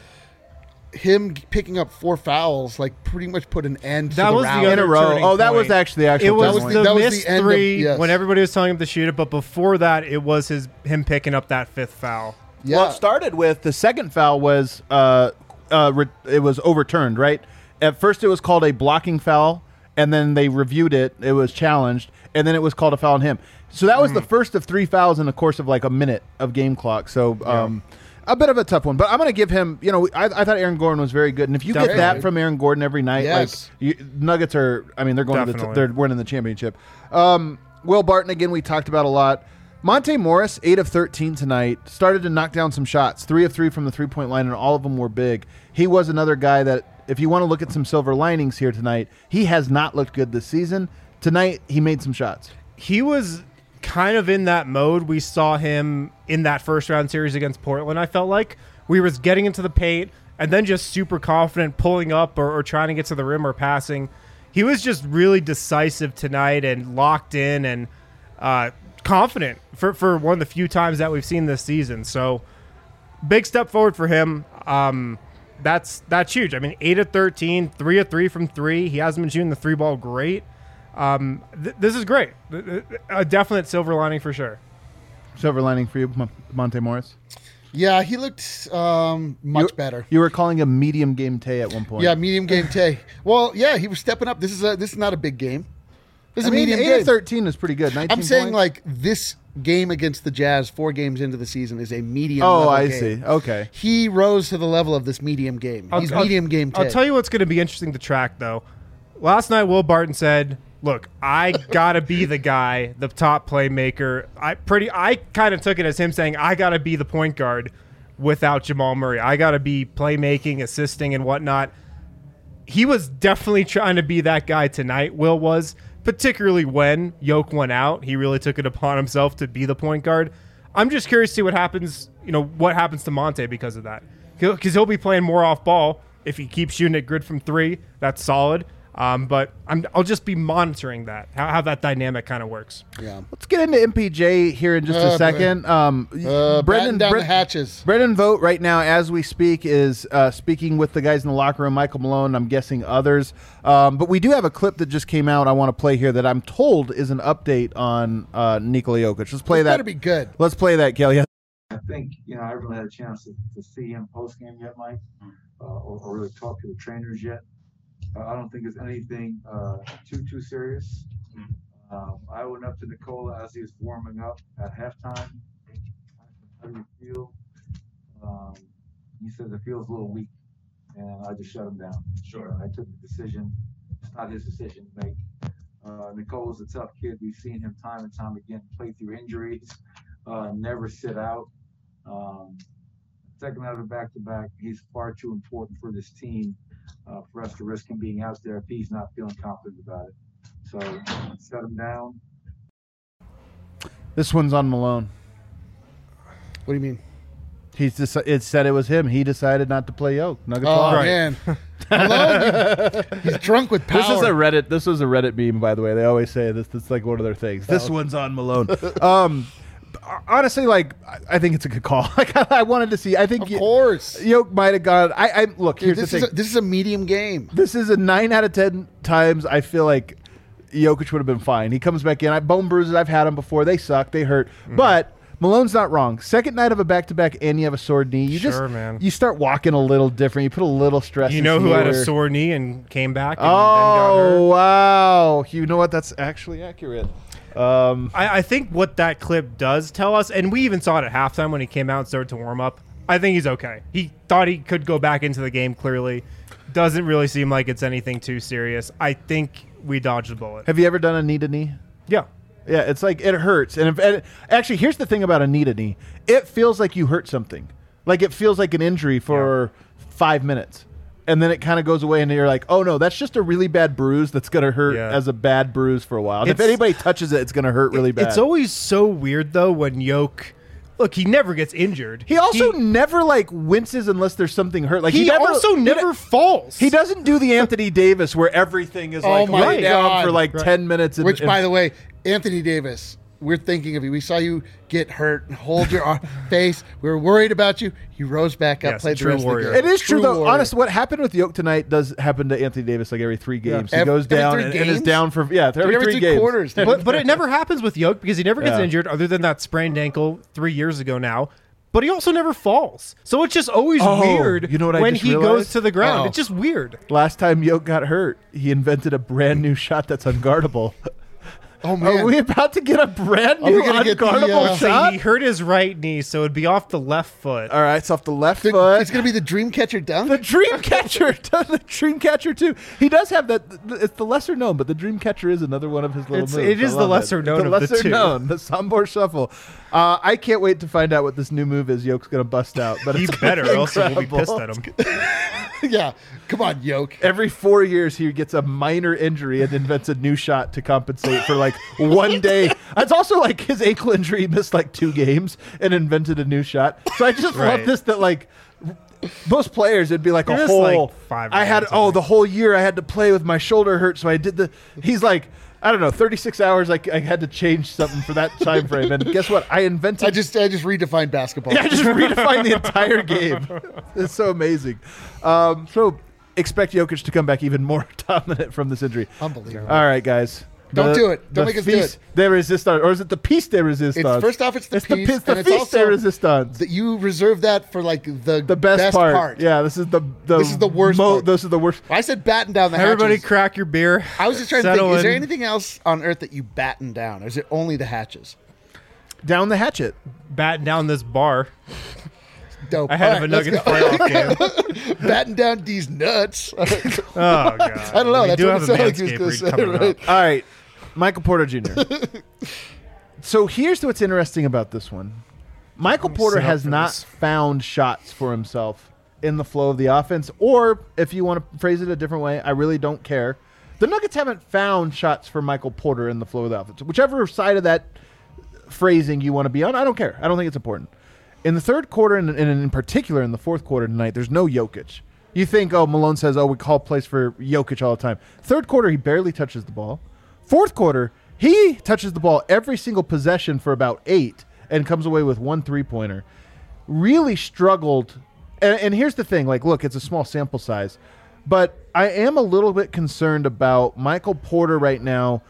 him picking up four fouls, like pretty much put an end That to the was the round. in a other row. turning Oh, that was point. actually the actual. It was turning was point. the- the that was missed the end of- three yes. when everybody was telling him to shoot it, but before that, it was his him picking up that fifth foul. Yeah. Well, it started with the second foul was uh, uh, re- it was overturned, right? At first, it was called a blocking foul, and then they reviewed it. It was challenged, and then it was called a foul on him. So that was the first of three fouls in the course of like a minute of game clock. So, um, A bit of a tough one, but I'm going to give him, you know, I, I thought Aaron Gordon was very good. And if you Definitely. get that from Aaron Gordon every night, Yes. like you, Nuggets are, I mean, they're going to the, Definitely. t- they're winning the championship. Um, Will Barton, again, we talked about a lot. Monte Morris, eight of thirteen tonight, started to knock down some shots, three of three from the three-point line, and all of them were big. He was another guy that, if you want to look at some silver linings here tonight, he has not looked good this season. Tonight, he made some shots. He was kind of in that mode. We saw him in that first round series against Portland, I felt like. We was getting into the paint and then just super confident, pulling up or, or trying to get to the rim or passing. He was just really decisive tonight and locked in and uh, confident for, for one of the few times that we've seen this season. So big step forward for him. Um, that's that's huge. I mean, eight of thirteen, three of three from three. He hasn't been shooting the three ball great. Um, th- this is great. A definite silver lining for sure. Silver lining for you, Mon- Monte Morris. Yeah, he looked um, much you, better. You were calling him medium game Tay at one point. Yeah, medium game Tay. Well, yeah, he was stepping up. This is a this is not a big game. This is I a mean, medium eight game. of thirteen is pretty good. nineteen I'm saying points. like this game against the Jazz, four games into the season, is a medium. Oh, level I game. see. Okay. He rose to the level of this medium game. I'll- He's I'll- medium game Tay. I'll tell you what's going to be interesting to track, though. Last night, Will Barton said, "Look, I gotta be the guy, the top playmaker." I pretty, I kind of took it as him saying, "I gotta be the point guard without Jamal Murray. I gotta be playmaking, assisting, and whatnot." He was definitely trying to be that guy tonight. Will was, particularly when Yoke went out. He really took it upon himself to be the point guard. I'm just curious to see what happens. You know, what happens to Monte because of that, because he'll be playing more off ball if he keeps shooting it grid from three. That's solid. Um, but I'm, I'll just be monitoring that, how, how that dynamic kind of works. Yeah. Let's get into M P J here in just Uh, a second. Um, Uh, Brendan down Bre- the hatches. Brendan Vogt right now, as we speak, is uh, speaking with the guys in the locker room, Michael Malone, I'm guessing others. Um, but we do have a clip that just came out I want to play here that I'm told is an update on uh, Nikola Jokic. Let's play This that. better be good. Let's play that, Kelly. I think, you know, I haven't really had a chance to, to see him post game yet, Mike, uh, or, or really talk to the trainers yet. Uh, I don't think it's anything uh, too, too serious. Um, I went up to Nikola as he was warming up at halftime. How do you feel? Um, he says it feels a little weak, and I just shut him down. Sure. I took the decision. It's not his decision to make. Uh, Nikola's a tough kid. We've seen him time and time again play through injuries, uh, never sit out. Um, second out of a back-to-back, he's far too important for this team uh, for us to risk him being out there if he's not feeling confident about it. So set him down. This one's on Malone. What do you mean? He's just, it said it was him. He decided not to play Yoke. Nuggets Oh lost. man, Malone, you- he's drunk with power. This is a Reddit. This was a Reddit meme, by the way. They always say this. This is like one of their things. This Oh. one's on Malone. um, honestly, like I- I think it's a good call. Like I wanted to see. I think Of Yo- course. Yoke might have gone. I, I look. Here's Dude, this the is thing. a, this is a medium game. This is a nine out of ten times. I feel like Jokic would have been fine. He comes back in. I bone bruises. I've had them before. They suck. They hurt. Mm-hmm. But Malone's not wrong. Second night of a back to back, and you have a sore knee. You Sure, just man. you start walking a little different. You put a little stress. You know into who had a your- sore knee and came back and Oh then got hurt? wow! You know what? That's actually accurate. Um, I, I think what that clip does tell us, and we even saw it at halftime when he came out and started to warm up, I think he's okay. He thought he could go back into the game clearly. Doesn't really seem like it's anything too serious. I think we dodged a bullet. have you ever done a knee to knee? Yeah. Yeah, it's like it hurts. And, if, and actually, here's the thing about a knee to knee: it feels like you hurt something. Like it feels like an injury for five minutes, and then it kind of goes away, and you're like, "Oh no, that's just a really bad bruise that's gonna hurt Yeah. as a bad bruise for a while." And if It's- anybody touches it, it's gonna hurt really bad. It's always so weird, though, when Yoke... Look, he never gets injured. he also never like winces unless there's something hurt. Like He, he, never, also he- never falls. He doesn't do the Anthony Davis where everything is Oh like my laid down God. for like Right. ten minutes. And, Which, and- by the way, Anthony Davis, we're thinking of you. We saw you get hurt and hold your ar- face. We were worried about you. You rose back up, Yes, played the true rest warrior. of the game. It is true, though. warrior. Honestly, what happened with Yoke tonight does happen to Anthony Davis like every three games. He Every- goes every down three and, and is games? down for yeah every, every three, three games. quarters. but, but it never happens with Yoke because he never gets Yeah. injured other than that sprained ankle three years ago now. But he also never falls. So it's just always Oh, weird you know what I when just he realized? goes to the ground. Oh. It's just weird. Last time Yoke got hurt, he invented a brand new shot that's unguardable. Oh, man. Are we about to get a brand Are we new gonna get the, unguardable uh, So shot? he hurt his right knee, so it'd be off the left foot. All right, it's off the left The- foot. it's going to be the Dreamcatcher dunk. The Dreamcatcher, the Dreamcatcher too. He does have that. It's the lesser known, but the Dreamcatcher is another one of his little It's- moves. it is I the love lesser known the of the lesser two. known, the Sambor Shuffle. Uh, I can't wait to find out what this new move is. Yoke's gonna bust out, but He it's gonna better, be or else we'll be incredible. pissed at him. yeah. Come on, Yoke. Every four years, he gets a minor injury and invents a new shot to compensate for like one day. It's also like his ankle injury, he missed like two games and invented a new shot. So I just love Right. this that like most players, it'd be like He a missed, whole. like, five I had games, I oh think. the whole year I had to play with my shoulder hurt, so I did the. He's like. I don't know, thirty-six hours. Like I had to change something for that time frame, and guess what? I invented. I just I just redefined basketball. Yeah, I just redefined the entire game. It's so amazing. Um, so expect Jokic to come back even more dominant from this injury. Unbelievable. All right, guys. Don't do it. Don't the make us do feast it. de resistance, or is it the piece de resistance? It's first off, it's the it's the, piece, piece- the and it's feast de also resistance. that you reserve that for like the The best, part. Yeah, this is the, the This is the worst part. This is the worst. I said batten down the Everybody hatches. crack your beer. I was just trying to think, settle is there in. anything else on earth that you batten down? Or is it only the hatches? Down the hatchet. Batten down this bar Dope. ahead All of a right, let's Nuggets go. playoff game. Batten down these nuts. Oh, God. I don't know. We That's do what have it a sounded like he was Manscaped gonna read say, coming right? up. All right, Michael Porter Junior So here's what's interesting about this one. Michael Porter sit up has for not this. found shots for himself in the flow of the offense, or if you want to phrase it a different way, I really don't care. The Nuggets haven't found shots for Michael Porter in the flow of the offense. Whichever side of that phrasing you want to be on, I don't care. I don't think it's important. In the third quarter, and, and in particular in the fourth quarter tonight, there's no Jokic. You think, oh, Malone says, oh, we call plays for Jokic all the time. Third quarter, he barely touches the ball. Fourth quarter, he touches the ball every single possession for about eight and comes away with one three-pointer. Really struggled. And, and here's the thing. Like, look, it's a small sample size. But I am a little bit concerned about Michael Porter right now,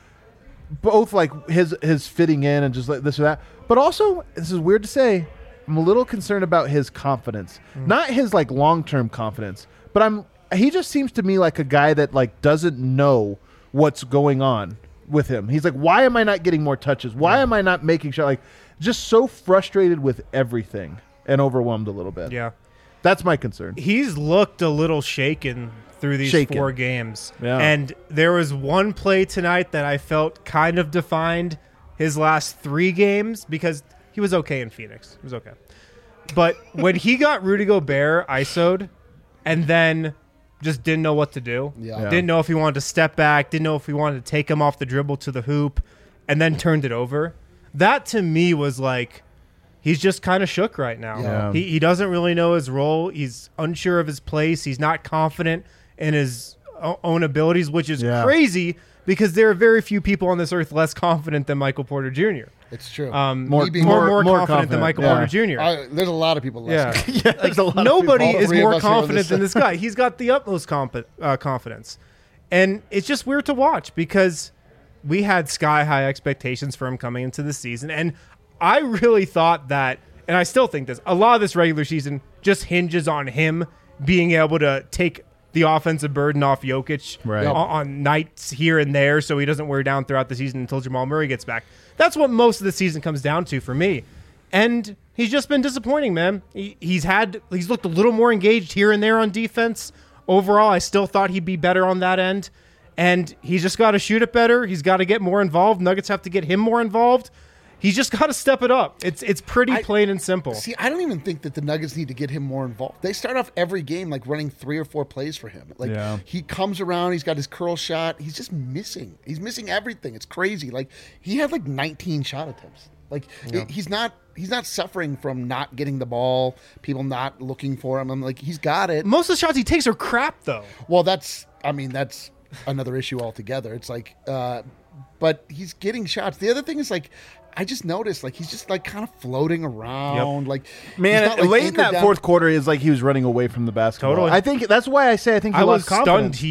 both like his his fitting in and just like this or that. But also, this is weird to say, I'm a little concerned about his confidence. Mm. Not his like long-term confidence, but I'm he just seems to me like a guy that like doesn't know what's going on with him. He's like, why am I not getting more touches? Why am I not making sure? Like, just so frustrated with everything and overwhelmed a little bit. Yeah. That's my concern. He's looked a little shaken through these Shaken. four games. Yeah. And there was one play tonight that I felt kind of defined his last three games because he was okay in Phoenix. He was okay. But when he got Rudy Gobert I S O'd and then just didn't know what to do. Yeah. Yeah. Didn't know if he wanted to step back, didn't know if he wanted to take him off the dribble to the hoop, and then turned it over. That to me was like, he's just kind of shook right now. Yeah. He, he doesn't really know his role. He's unsure of his place. He's not confident in his o- own abilities, which is Yeah. crazy because there are very few people on this earth less confident than Michael Porter Junior It's true. Um, More- more, being more, more- more, more confident, than confident, Michael yeah. Porter Junior I, there's a lot of people Yeah. less. Yeah, there's a lot of Nobody people. All is three of more us here on confident this than side. this guy. He's got the utmost comp- uh, confidence. And it's just weird to watch because we had sky high expectations for him coming into the season. And I really thought that, and I still think this, a lot of this regular season just hinges on him being able to take the offensive burden off Jokic Right. on, on nights here and there so he doesn't wear down throughout the season until Jamal Murray gets back. That's what most of the season comes down to for me. And he's just been disappointing, man. He, he's had he's looked a little more engaged here and there on defense. Overall, I still thought he'd be better on that end. And he's just got to shoot it better. He's got to get more involved. Nuggets have to get him more involved. He's just got to step it up. It's it's pretty I- plain and simple. See, I don't even think that the Nuggets need to get him more involved. They start off every game like running three or four plays for him. Like Yeah. he comes around, he's got his curl shot. He's just missing. He's missing everything. It's crazy. Like he had like nineteen shot attempts. Like it- he's not he's not suffering from not getting the ball, people not looking for him. I'm like he's got it. Most of the shots he takes are crap, though. Well, that's I mean that's another issue altogether. It's like, uh, but he's getting shots. The other thing is like. I just noticed, like he's just like kind of floating around, like Man, he's not, like, late in anchored that down. fourth quarter is like he was running away from the basketball. Totally. I think that's why I say I think he I was lost confidence. stunned he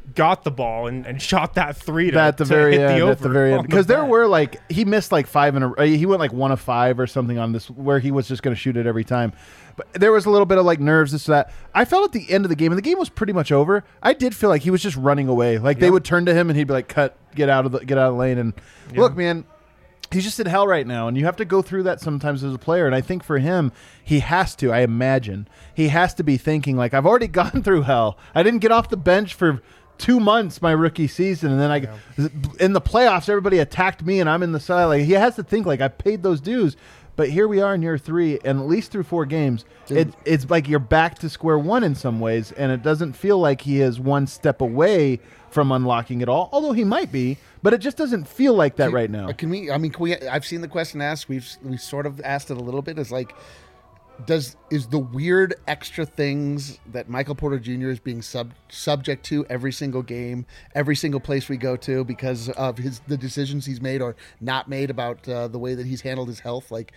got the ball and, and shot that three to, at the to very hit end, the over at the very end, on the because there bet. were like he missed like five in a he went like one of five or something on this where he was just going to shoot it every time. But there was a little bit of like nerves, this that. I felt at the end of the game, and the game was pretty much over. I did feel like he was just running away. Like they Yep. would turn to him and he'd be like, "Cut, get out of the get out of the lane." And Yeah. look, man. He's just in hell right now, and you have to go through that sometimes as a player. And I think for him, he has to, I imagine, he has to be thinking, like, I've already gone through hell. I didn't get off the bench for two months my rookie season, and then I yeah. in the playoffs, everybody attacked me, and I'm in the side. Like, he has to think, like, I paid those dues. But here we are in year three, and at least through four games, it, it's like you're back to square one in some ways, and it doesn't feel like he is one step away from unlocking it all, although he might be, but it just doesn't feel like that Can- right now. Can we? I mean, can we? I've seen the question asked. We've we sort of asked it a little bit. Is like, does is the weird extra things that Michael Porter Junior is being sub subject to every single game, every single place we go to, because of his the decisions he's made or not made about uh, the way that he's handled his health, like.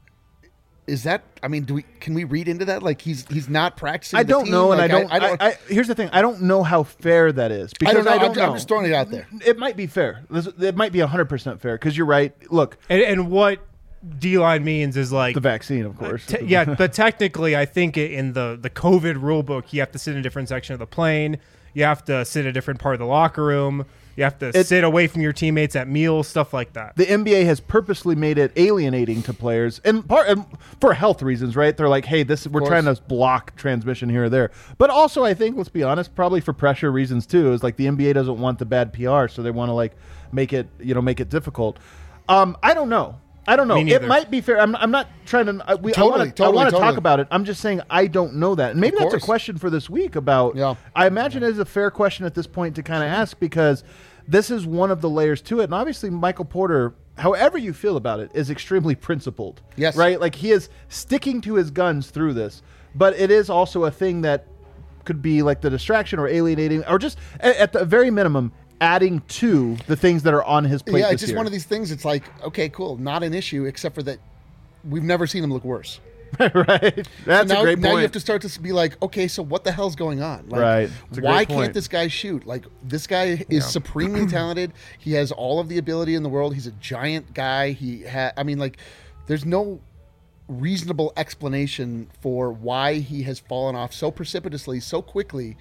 Is that? I mean, do we? Can we read into that? Like he's he's not practicing. I the don't team? know, and Like, I don't. I, don't. I, I, here's the thing: I don't know how fair that is I because don't know. I don't I'm, know. I'm just throwing it out there. It might be fair. This- It might be one hundred percent fair because you're right. Look, And, and what D-line means is like the vaccine, of course. Te- yeah, but technically, I think i- in the the COVID rule book, you have to sit in a different section of the plane. You have to sit in a different part of the locker room. You have to It- sit away from your teammates at meals, stuff like that. The N B A has purposely made it alienating to players, and part and for health reasons, right? They're like, "Hey, this we're course. trying to block transmission here or there." But also, I think, let's be honest, probably for pressure reasons too. Is like the N B A doesn't want the bad P R, so they want to like make it, you know, make it difficult. Um, I don't know. I don't know. Me It neither. might be fair. I'm, I'm not trying to. I, we, Totally, I want to totally, talk totally. about it. I'm just saying I don't know that, and maybe Of that's a course. question for this week. About. Yeah. I imagine it is a fair question at this point to kind of ask because this is one of the layers to it, and obviously Michael Porter, however you feel about it, is extremely principled. Yes. Right. Like he is sticking to his guns through this, but it is also a thing that could be like the distraction or alienating, or just at, at the very minimum adding to the things that are on his plate. Yeah, this it's just year. one of these things. It's like, okay, cool, not an issue, except for that we've never seen him look worse. right. That's now, a great now point. you have to start to be like, okay, so what the hell's going on? Like, Right. It's a great why point. can't this guy shoot? Like, this guy is supremely talented. He has all of the ability in the world. He's a giant guy. He ha- I mean, like, there's no reasonable explanation for why he has fallen off so precipitously, so quickly.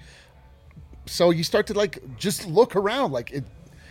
So you start to like just look around, like it.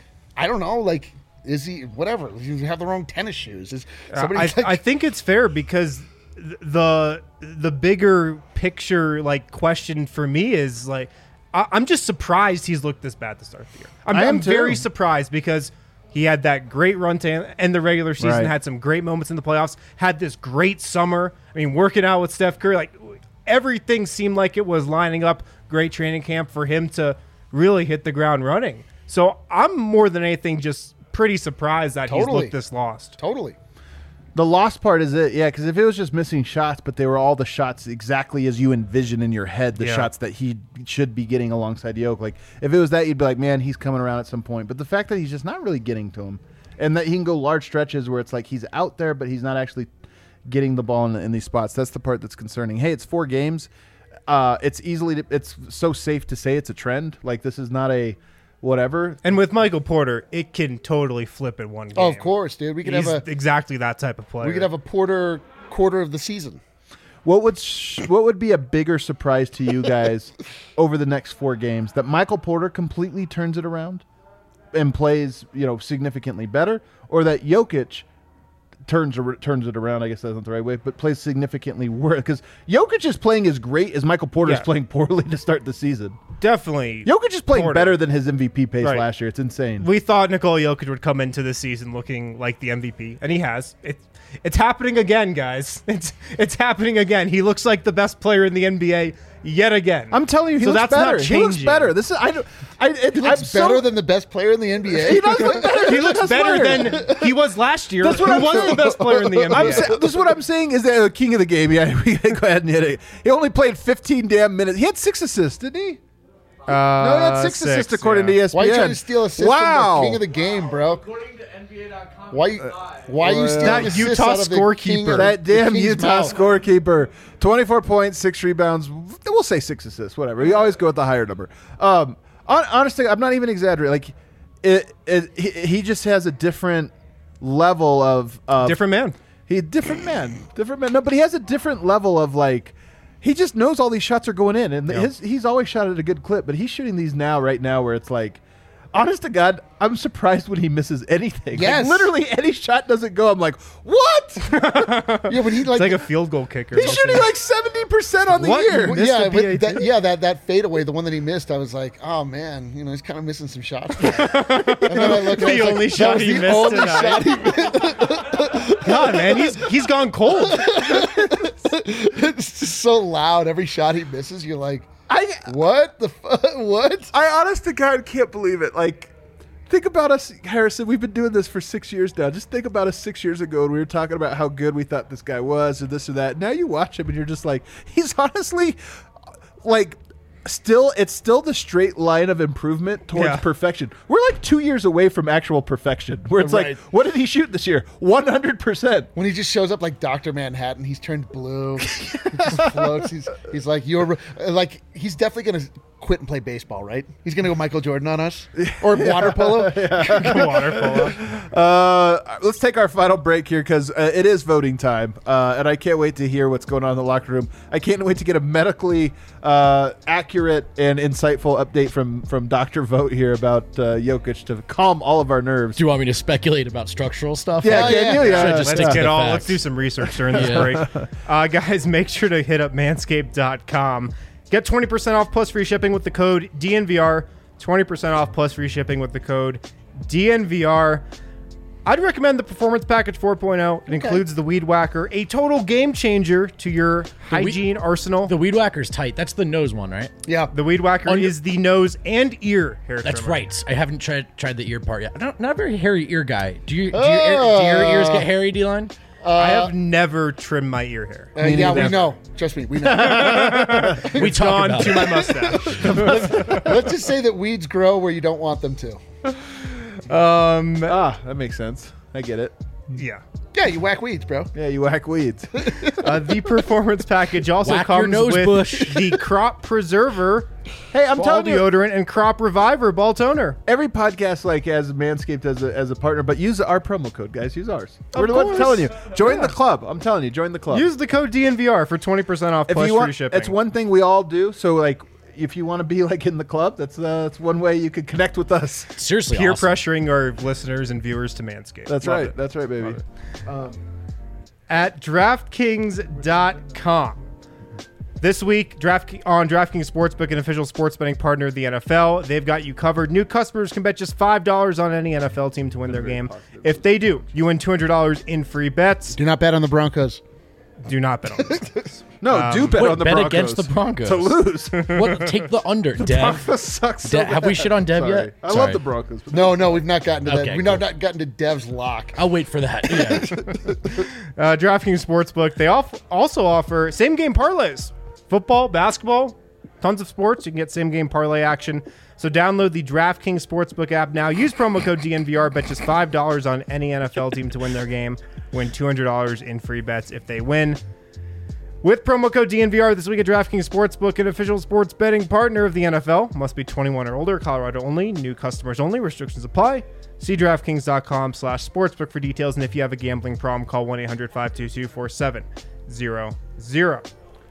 I don't know, like. Is he whatever? You have the wrong tennis shoes. Is somebody? I, like, I think it's fair because th- the the bigger picture like question for me is like I, I'm just surprised he's looked this bad to start the year. I'm, I am I'm very too. surprised because he had that great run to end the regular season, Right. had some great moments in the playoffs, had this great summer. I mean, working out with Steph Curry, like everything seemed like it was lining up. Great training camp for him to really hit the ground running. So I'm more than anything just pretty surprised that he's Totally. looked this lost. totally. The lost part is it, yeah, because if it was just missing shots, but they were all the shots exactly as you envision in your head, the Yeah. shots that he should be getting alongside Yoke. Like, if it was that, you'd be like, man, he's coming around at some point. But the fact that he's just not really getting to him, and that he can go large stretches where it's like he's out there, but he's not actually getting the ball in, in these spots, that's the part that's concerning. Hey, it's four games. Uh, it's easily, it's so safe to say it's a trend. Like, this is not a whatever. And with Michael Porter, it can totally flip in one game. Oh, of course, dude. We could He's have a exactly that type of player. we could have a Porter quarter of the season. What would sh- what would be a bigger surprise to you guys over the next four games? That Michael Porter completely turns it around and plays, you know, significantly better, or that Jokic turns ar- turns it around? I guess that's not the right way, but plays significantly worse. Because Jokic is playing as great as Michael Porter is Yeah. playing poorly to start the season. Definitely. Jokic is playing Porter. better than his M V P pace Right. last year. It's insane. We thought Nikola Jokic would come into this season looking like the M V P, and he has. It, it's happening again, guys. It's it's happening again. He looks like the best player in the N B A yet again. I'm telling you, he so looks that's better. Not He looks changing. better. This is I. don't- I it, He looks I'm so- better than the best player in the N B A. He does look better. He than looks the best better player. than he was last year. That's what who I'm was saying. the best player in the N B A. I'm sa- this is what I'm saying is that uh, king of the game. Yeah, we gotta go ahead and hit it. He only played fifteen damn minutes. He had six assists, didn't he? Uh, No, he had six, assists according to E S P N. Why are you trying to steal assists Wow. from the king of the game, bro? According to N B A dot com, Why you, why are you stealing That assists Utah out of the king scorekeeper. of- That the damn king's Utah mouth? scorekeeper. twenty-four points, six rebounds. We'll say six assists, whatever. We always go with the higher number. Um, Hon- honestly, I'm not even exaggerating. Like, it, it, he, he just has a different level of, of Different man. He different man, different man. No, but he has a different level of like. He just knows all these shots are going in, and Yep. his he's always shot at a good clip. But he's shooting these now, right now, where it's like, honest to God, I'm surprised when he misses anything. Yes. Like, literally any shot doesn't go. I'm like, what? Yeah, but he like, It's like a field goal kicker. He's shooting like seventy percent on the What? year. Missed yeah, a P A but that, T? yeah, that that fadeaway, the one that he missed, I was like, oh man, you know, he's kind of missing some shots. and then I looked, and I The was only like, shot that was he the missed only tonight. shot he missed. God, man, he's he's gone cold. It's just so loud. Every shot he misses, you're like, I what the fuck? What? I honest to God can't believe it. Like, think about us, Harrison. We've been doing this for six years now. Just think about us six years ago when we were talking about how good we thought this guy was, or this or that. Now you watch him and you're just like, he's honestly, like, still, it's still the straight line of improvement towards Yeah. perfection. We're like two years away from actual perfection, where it's Right. like, what did he shoot this year? one hundred percent. When he just shows up like Doctor Manhattan, he's turned blue. He just floats. He's he's like you're like he's definitely gonna quit and play baseball, right? He's gonna go Michael Jordan on us or water polo. Water polo. Uh, let's take our final break here because uh, it is voting time, uh, and I can't wait to hear what's going on in the locker room. I can't wait to get a medically uh, accurate and insightful update from from Doctor Vote here about uh, Jokic to calm all of our nerves. Do you want me to speculate about structural stuff? Yeah, Oh, can yeah. you? Yeah, Should I just Let's stick to get the all. facts? Let's do some research during this Yeah. break, uh, guys. Make sure to hit up manscaped dot com. Get twenty percent off plus free shipping with the code D N V R. twenty percent off plus free shipping with the code D N V R. I'd recommend the Performance Package four point oh. It includes the Weed Whacker, a total game changer to your hygiene arsenal. The Weed Whacker's tight. That's the nose one, right? Yeah. The Weed Whacker Under- is the nose and ear hair That's trimmer. right. I haven't tried tried the ear part yet. I'm not, not a very hairy ear guy. Do you do, your, ear, do your ears get hairy, D-Line? I have never trimmed my ear hair. Uh, yeah, we neither. know. Trust me, we know. We talk Gone about to it. my mustache. Let's just say that weeds grow where you don't want them to. um, Ah, that makes sense. I get it. yeah. Yeah, you whack weeds, bro. Yeah, you whack weeds. Uh, the Performance Package also Whack your comes nose with bush. the Crop Preserver, Hey, I'm ball telling you, deodorant, and Crop Reviver ball toner. every podcast like has Manscaped as a, as a partner, but use our promo code, guys. Use ours. Of We're the ones course. telling you. Join Yeah. the club. I'm telling you, join the club. Use the code D N V R for twenty percent off if plus you free want, shipping. it's one thing we all do. So like, if you want to be like in the club, that's uh, that's one way you could connect with us. Seriously, Peer awesome. pressuring our listeners and viewers to Manscaped. That's Love right. it. That's right, baby. Love it. Um, At DraftKings dot com. This week, Draft on DraftKings Sportsbook, an official sports betting partner of the N F L, they've got you covered. New customers can bet just five dollars on any N F L team to win their game. If they do, you win two hundred dollars in free bets. Do not bet on the Broncos. Do not bet on this. no, do bet Wait, on the bet Broncos against the Broncos. to lose. What? Take the under, Dev. Broncos suck so De- have we bad. shit on Dev Sorry. yet? I love Sorry. the Broncos. But No, no, we've not gotten to that. Okay, We've cool. not, not gotten to Dev's lock. I'll wait for that. Yeah. Uh, DraftKings Sportsbook, they off- also offer same game parlays. Football, basketball, tons of sports. You can get same game parlay action. So download the DraftKings Sportsbook app now. Use promo code D N V R. Bet just five dollars on any N F L team to win their game. Win two hundred dollars in free bets if they win. With promo code D N V R this week at DraftKings Sportsbook, an official sports betting partner of the N F L. Must be twenty-one or older, Colorado only, new customers only, restrictions apply. See DraftKings.com slash sportsbook for details. And if you have a gambling problem, call one eight hundred five two two four seven zero zero.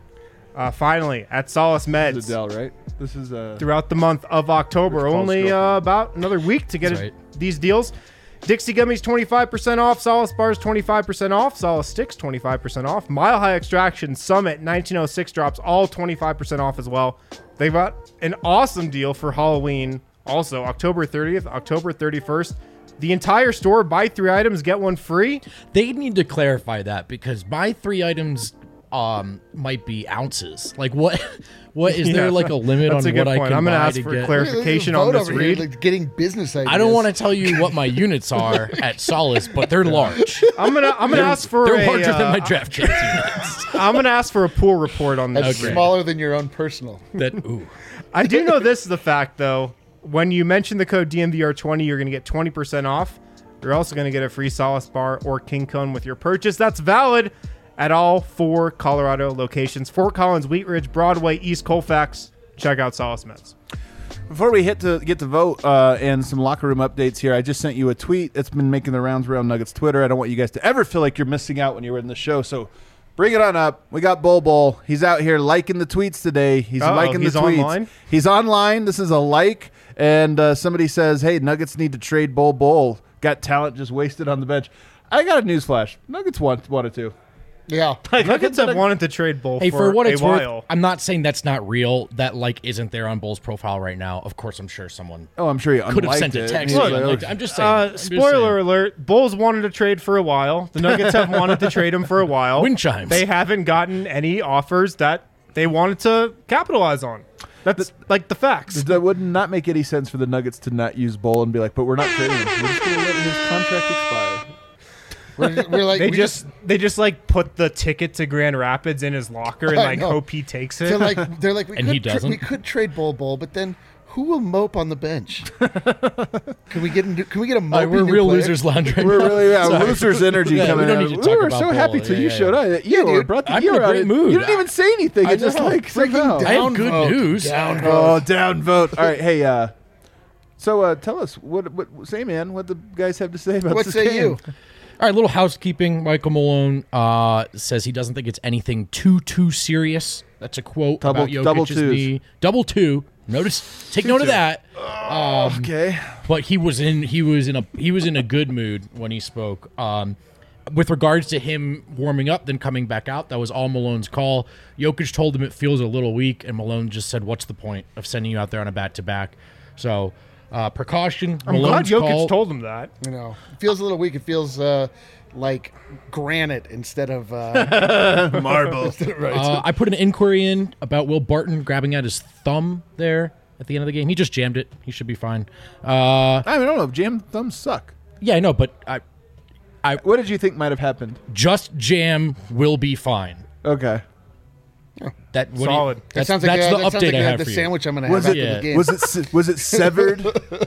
Uh, finally, at Solace This Meds, is Adele, right? This is uh, throughout the month of October, Where's Paul's only uh, girlfriend? about another week to get That's it- right. these deals. Dixie Gummies twenty-five percent off, Solace Bars twenty-five percent off, Solace Sticks twenty-five percent off, Mile High Extraction Summit nineteen oh six drops all twenty-five percent off as well. They've got an awesome deal for Halloween also, October thirtieth, October thirty-first. The entire store, buy three items, get one free. They need to clarify that because buy three items um might be ounces. Like what? What is there Yeah, like a limit that's on a good what I point. can I'm gonna buy ask to for get? clarification Vote on this over here, read. like, getting business ideas. I don't want to tell you what my units are at Solace, but they're large. I'm gonna I'm gonna ask for They're a, larger than uh, my DraftKings units. I'm gonna ask for a pool report on this. That's read. smaller than your own personal. That ooh. I do know this is the fact though. When you mention the code D N V R twenty, you're gonna get twenty percent off. You're also gonna get a free Solace bar or King Cone with your purchase. That's valid at all four Colorado locations: Fort Collins, Wheat Ridge, Broadway, East Colfax. Check out Solace Meds. Before we hit to get to vote uh, and some locker room updates here, I just sent you a tweet that's been making the rounds around Nuggets Twitter. I don't want you guys to ever feel like you're missing out when you're in the show, so bring it on up. We got Bol Bol. He's out here liking the tweets today. He's Uh-oh, liking the he's tweets. online? He's online. This is a like, and uh, somebody says, hey, Nuggets need to trade Bol Bol. Got talent just wasted on the bench. I got a newsflash. Nuggets want, wanted to. Yeah. Nuggets have wanted to trade Bull Hey, for, for what a it's while. worth, I'm not saying that's not real. That like isn't there on Bull's profile right now. Of course, I'm sure someone Oh, I'm sure you could have unliked sent a it. text. He's and like, unliked oh, it. I'm just saying. Uh, I'm just spoiler saying. alert: Bulls wanted to trade for a while. The Nuggets have wanted to trade him for a while. Wind chimes. They haven't gotten any offers that they wanted to capitalize on. That's like the facts. That would not make any sense for the Nuggets to not use Bol and be like, but we're not trading him. We're just going to let his contract expire. We're, we're like They we just, they just like put the ticket to Grand Rapids in his locker and I like know. hope he takes it. they're like they're like we And could he tra- doesn't? we could trade Bol Bol, but then who will mope on the bench? Can we get into, can we get a All mopey right, we're new real player? losers lounge right We're now. really yeah, Sorry. losers energy Yeah, coming we don't out. need to We talk were about so Bol. happy till Yeah, you yeah, showed yeah. up. You Yeah, were dude. brought the I'm in a gear out. great mood. You didn't even say anything. I It just know. like Freaking somehow. I have good Downvote. news. Downvote. Oh, downvote. All right, hey, uh, so uh, tell us what what say, man, what the guys have to say about What this say game. you? All right, little housekeeping. Michael Malone uh, says he doesn't think it's anything too too serious. That's a quote Double- about Jokic's double twos. knee. Double two. Notice. Take note of that. Um, Okay. but he was in he was in a he was in a good mood when he spoke. Um, with regards to him warming up, then coming back out, that was all Malone's call. Jokic told him it feels a little weak, and Malone just said, "What's the point of sending you out there on a back to back?" So, uh, precaution. I'm Malone's glad Jokic call, told him that. You know, it feels a little weak. It feels uh, like granite instead of uh, Marble. right. Uh, I put an inquiry in about Will Barton grabbing at his thumb there at the end of the game. He just jammed it. He should be fine. Uh, I mean, I don't know. Jam thumbs suck. yeah, I know, but I What did you think might have happened? just jam will be fine. Okay. That what do you- Solid. that that's sounds like that's uh, the that sounds update like I uh, have the for you. sandwich I'm going to Was have it after the game. was it se- was it severed?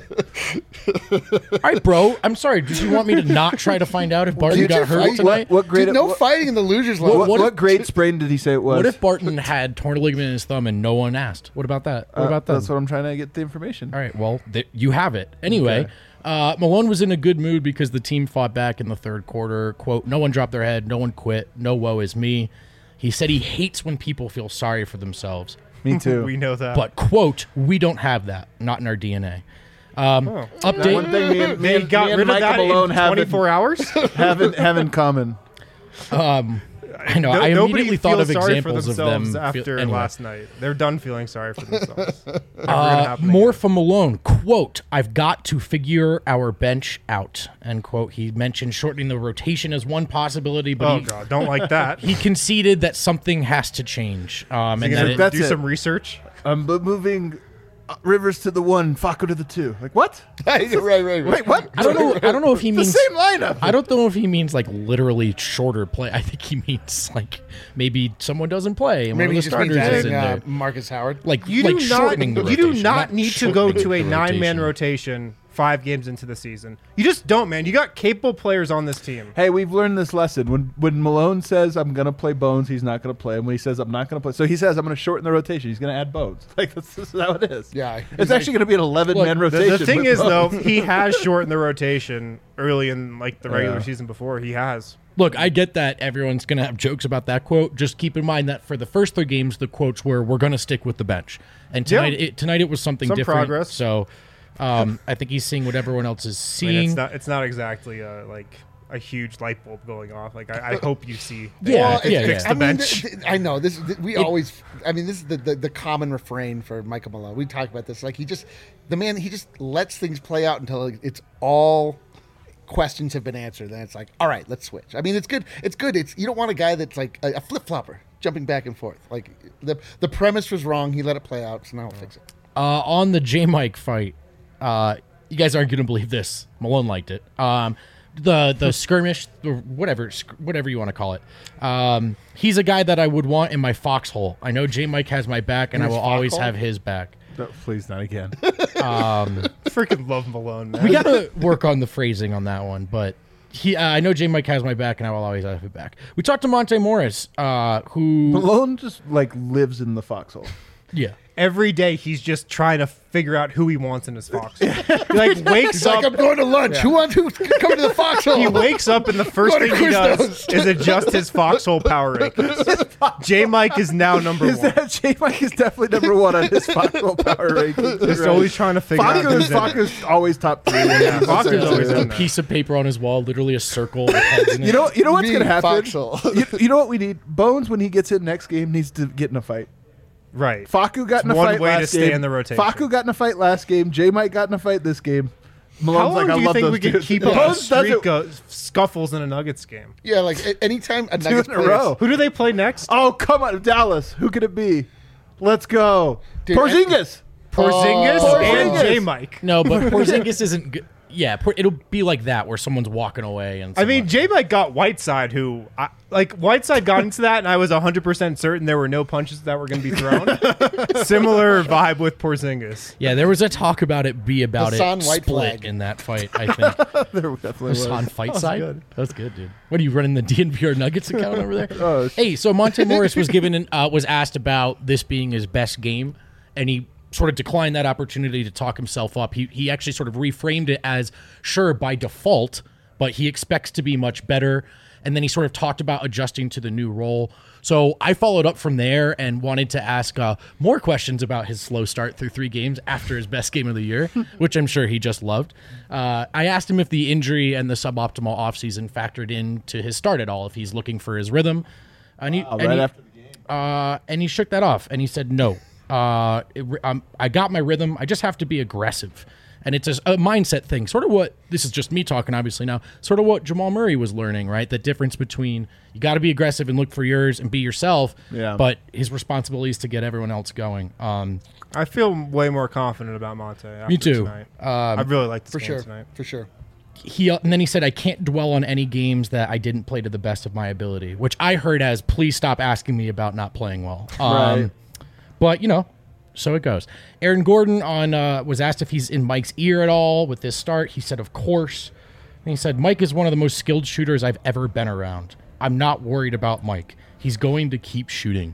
All right, bro. I'm sorry. Did you want me to not try to find out if Barton Did got you hurt fight? tonight? What grade? Dude, no what, fighting in the losers line. what, what what if- grade sprain did he say it was? What if Barton had torn a ligament in his thumb and no one asked? What about that? What Uh, about that? That's what I'm trying to get the information. All right, well, th- you have it. Anyway, Okay. uh, Malone was in a good mood because the team fought back in the third quarter. Quote, no one dropped their head. No one quit. No woe is me. He said he hates when people feel sorry for themselves. Me too. We know that. But, quote, we don't have that. Not in our D N A. Um, One update. thing me and, me they and, got me and rid of Michael that Malone in have in, twenty-four hours. have in, have in common. Um, I know. No- I nobody immediately thought feels of sorry examples for of themselves them. feel- after anyway. last night. They're done feeling sorry for themselves. Never gonna Uh, happen more again. from Malone. Quote, I've got to figure our bench out. End quote. He mentioned shortening the rotation as one possibility, but Oh he, god, don't like that. he conceded that something has to change. Um, and You that gonna it, That's do it. some research. I'm b- moving uh, Rivers to the one, Facu to the two. Like what? right, right, right. Wait, what? I don't know. I don't know if he the means. same lineup. I don't know if he means like literally shorter play. I think he means like maybe someone doesn't play and Maybe one he of the just means starters is adding in uh, there. Marcus Howard. Like You like do not. shortening the You do rotation, not need to go shortening to a the nine-man rotation. rotation five games into the season. You just don't, man. You got capable players on this team. Hey, we've learned this lesson. When when Malone says I'm gonna play Bones, he's not gonna play. And when he says I'm not gonna play, so he says I'm gonna shorten the rotation. He's gonna add Bones. Like that's, this is how it is. Yeah, he's it's like- actually gonna be an eleven man Look, The, rotation. the thing with is, though, Bones. he has shortened the rotation early in like the regular Yeah. season before. He has. Look, I get that everyone's going to have jokes about that quote. Just keep in mind that for the first three games, the quotes were, we're going to stick with the bench. And tonight, Yeah. it, tonight it was something Some different. progress. So um, I think he's seeing what everyone else is I mean, seeing. it's not. It's not exactly a, like a huge light bulb going off. Like I, I hope you see. that Yeah, you Well, yeah, it's- fix yeah. the I mean, bench. th- th- I know this. th- we always. I mean, this is the, the the common refrain for Michael Malone. We talk about this. Like he just, the man, he just lets things play out until it's all questions have been answered. Then it's like, all right, let's switch. I mean, it's good. It's good. It's you don't want a guy that's like a, a flip flopper jumping back and forth. Like the the premise was wrong. He let it play out. So now we'll fix it. Uh, on the J Mike fight, uh, you guys aren't going to believe this. Malone liked it. Um, the the skirmish, or whatever sc- whatever you want to call it. Um, he's a guy that I would want in my foxhole. I know J Mike has my back, and I his will always foxhole? have his back. No, please not again. Freaking love Malone, man. We got to work on the phrasing on that one, but he, uh, I know J Mike has my back, and I will always have his back. We talked to Monte Morris, uh, who Malone just like lives in the foxhole. Yeah. Every day he's just trying to figure out who he wants in his foxhole. He like wakes He's up. like, I'm going to lunch. Who wants who's coming to the foxhole? He wakes up and the first Go to thing he does Quiznos. is adjust his foxhole power rankings. J Mike is now number Is one. that J Mike is definitely number one on his foxhole power rankings. Just Right. always trying to figure out Faku's, who's in it. Faku's always top three. Yeah, Faku's There's always a in there. piece of paper on his wall, literally a circle with heads in it. You know, you know what's Me, gonna happen. foxhole. you, you know what we need? Bones, when he gets in next game, needs to get in a fight. Right. Faku got in a one fight way to last stay game. in the rotation. Faku got in a fight last game. J Mike got in a fight this game. How Malone's long like, I do you love think those we could dudes. keep Yeah. a Bones does streak it of scuffles in a Nuggets game? Yeah, like a- anytime a two Nuggets in a player- row. Who do they play next? Oh, come on, Dallas. Who could it be? Let's go. Dude, Porzingis. Porzingis Oh. and Porzingis. J Mike. No, but Porzingis isn't good. Yeah, Por- it'll be like that where someone's walking away and. I mean, someone- J Mike got Whiteside, who I, like Whiteside got into that, and I was one hundred percent certain there were no punches that were going to be thrown. Similar vibe with Porzingis. yeah, there was a talk about it be about Hassan it White split flag. in that fight. I think There definitely was. Hassan fight That was side. good. That's good, dude. What are you running the D N V R Nuggets account over there? Oh, sh- Hey, so Monte Morris was given an, uh, was asked about this being his best game, and he sort of declined that opportunity to talk himself up. He he actually sort of reframed it as sure by default, but he expects to be much better. And then he sort of talked about adjusting to the new role. So I followed up from there and wanted to ask uh, more questions about his slow start through three games after his best game of the year, which I'm sure he just loved. Uh, I asked him if the injury and the suboptimal offseason factored into his start at all, if he's looking for his rhythm. And he, Oh, and right he- after the game. uh, and he shook that off and he said no. Uh, it, um, I got my rhythm. I just have to be aggressive, and it's a, a mindset thing. Sort of what this is just me talking, obviously now. Sort of what Jamal Murray was learning, right? The difference between you got to be aggressive and look for yours and be yourself. Yeah. But his responsibility is to get everyone else going. Um, I feel way more confident about Monte. After Me too. Tonight. Um, I really like this for game sure, tonight. for sure. he and then he said, I can't dwell on any games that I didn't play to the best of my ability, which I heard as please stop asking me about not playing well. Um, Right. But you know. So it goes. Aaron Gordon on uh, was asked if he's in Mike's ear at all with this start. He said, of course. And he said, Mike is one of the most skilled shooters I've ever been around. I'm not worried about Mike. He's going to keep shooting.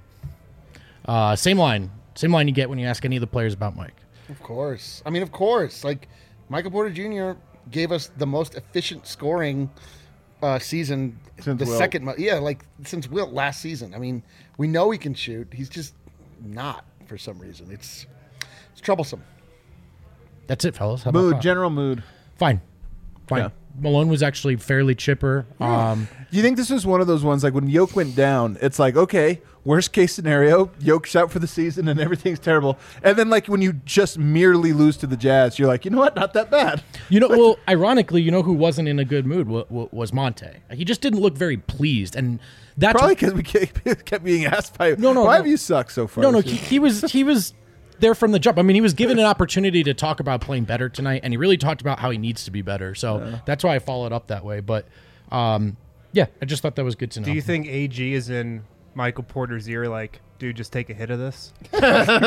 Uh, same line. Same line you get when you ask any of the players about Mike. Of course. I mean, of course. Like, Michael Porter Junior gave us the most efficient scoring uh, season. Since the Wilt. second, mo- yeah, like since Wilt last season. I mean, we know he can shoot. He's just not for some reason. It's it's troublesome. That's it, fellas. How about Mood, that? general mood. Fine. Fine. Yeah. Malone was actually fairly chipper. Um, Do you think this is one of those ones like when Yoke went down? It's like, okay, worst case scenario, Yoke's out for the season and everything's terrible. And then like when you just merely lose to the Jazz, you're like, you know what? Not that bad. You know, well, ironically, you know who wasn't in a good mood wa- wa- was Monte. He just didn't look very pleased, and that's Probably because we kept kept being asked by, No, no, why no. have you sucked so far? no, no. this He, year?" he was he was there from the jump. I mean, he was given an opportunity to talk about playing better tonight, and he really talked about how he needs to be better. So that's why I followed up that way. But um, yeah, I just thought that was good to know. Do you think A G is in Michael Porter's ear? Like, dude, just take a hit of this. He's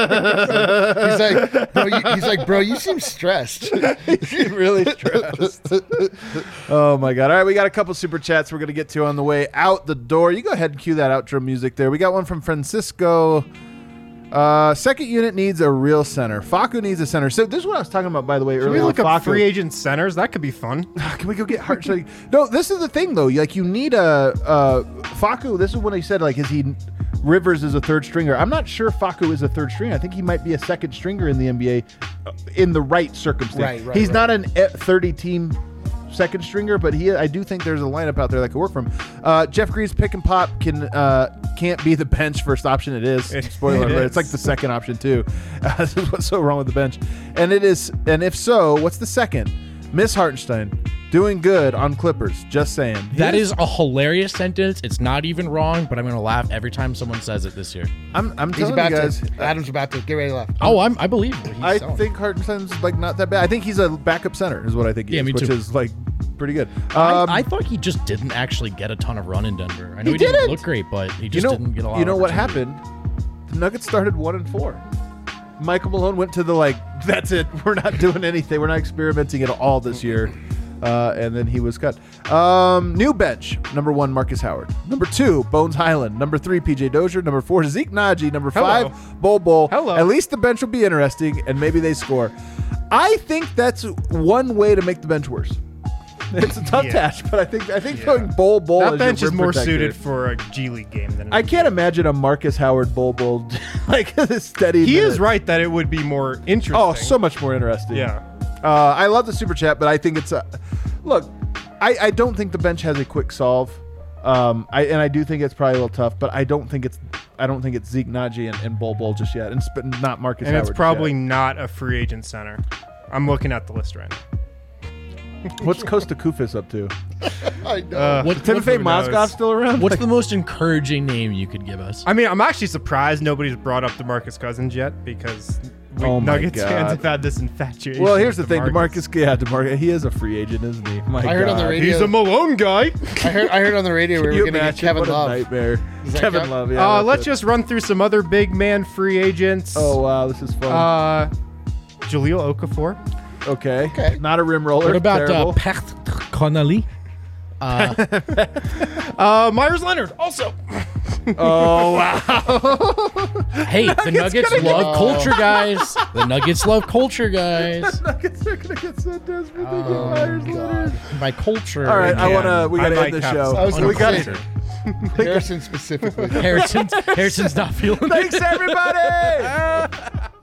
like, bro, you, he's like, bro, you seem stressed. really stressed. Oh my god! All right, we got a couple super chats we're gonna get to on the way out the door. You go ahead and cue that outro music there. We got one from Francisco. Uh, second unit needs a real center. Faku needs a center. So this is what I was talking about, by the way, Can we earlier. look with up Faku. free agent centers? That could be fun. Can we go get Hart? Like, no, this is the thing though. Like, you need a uh, Faku. This is when he said, like, is he Rivers is a third stringer? I'm not sure Faku is a third stringer. I think he might be a second stringer in the N B A, uh, in the right circumstance. Right, right, He's right. not an thirty team second stringer, but he I do think there's a lineup out there that could work for him. Uh, Jeff Green's pick and pop can uh, can't be the bench first option. It is. It Spoiler alert. is. It's like the second option too. Uh, this is what's so wrong with the bench. And it is. And if so, what's the second? Miss Hartenstein doing good on Clippers. Just saying. That He is a hilarious sentence. It's not even wrong, but I'm going to laugh every time someone says it this year. I'm. I'm He's telling about you guys. to. Adam's about to get ready to laugh. Oh, I'm, I believe what he's I selling. think Hartenstein's like not that bad. I think he's a backup center, is what I think he Yeah, is, me which too. is like pretty good. Um, I, I thought he just didn't actually get a ton of run in Denver. I know He he, didn't didn't. look great, but he you just know, didn't get a lot. you of know what opportunity. happened? The Nuggets started one and four. Michael Malone went to the like, that's it. We're not doing anything. We're not experimenting at all this year. Uh, and then he was cut. Um, new bench. Number one, Marcus Howard. Number two, Bones Highland. Number three, P J Dozier. Number four, Zeke Naji. Number Hello. five, Bol Bol. Hello. At least the bench will be interesting, and maybe they score. I think that's one way to make the bench worse. It's a tough Yeah. task, but I think I think Yeah. throwing Bol Bol That as bench your is rim more protector. suited for a G League game than I can't imagine a Marcus Howard Bol Bol like a steady. He minute. is right that it would be more interesting. Oh, so much more interesting. yeah. Uh, I love the super chat, but I think it's a look. I, I don't think the bench has a quick solve. Um, I and I do think it's probably a little tough, but I don't think it's I don't think it's Zeke Naji and, and Bol Bol just yet, and sp- not Marcus And Howard. it's probably yet. not a free agent center. I'm looking at the list right now. What's Costa Kufis up to? I know. Uh, What- Timofey who knows? Mozgov still around? What's the most encouraging name you could give us? I mean, I'm actually surprised nobody's brought up DeMarcus Cousins yet because we Oh my Nuggets God. fans have had this infatuation. Well, here's the with thing, DeMarcus. Demarcus. Yeah, Demarcus. He is a free agent, isn't he? My I heard on the God. radio- He's a Malone guy. I heard. I heard on the radio we Can were you going to get imagine? Kevin What a Love. nightmare. Is that Kevin Kev? Love. Yeah. uh, that's let's it. just run through some other big man free agents. Oh wow, this is fun. Uh, Jaleel Okafor. okay. okay. Not a rim roller. What about uh, Terrible. Pat Connolly? Uh, Uh, Myers Leonard also. Oh wow. hey, the Nuggets gonna love get- culture, guys. The Nuggets love culture, guys. Nuggets are gonna get so desperate. They get Oh, Myers God. Leonard. By culture. All right, I Again, wanna. We I gotta might end the have show. some I was we gonna got say- it. Harrison specifically. Harrison's, Harrison's not feeling Thanks it. everybody.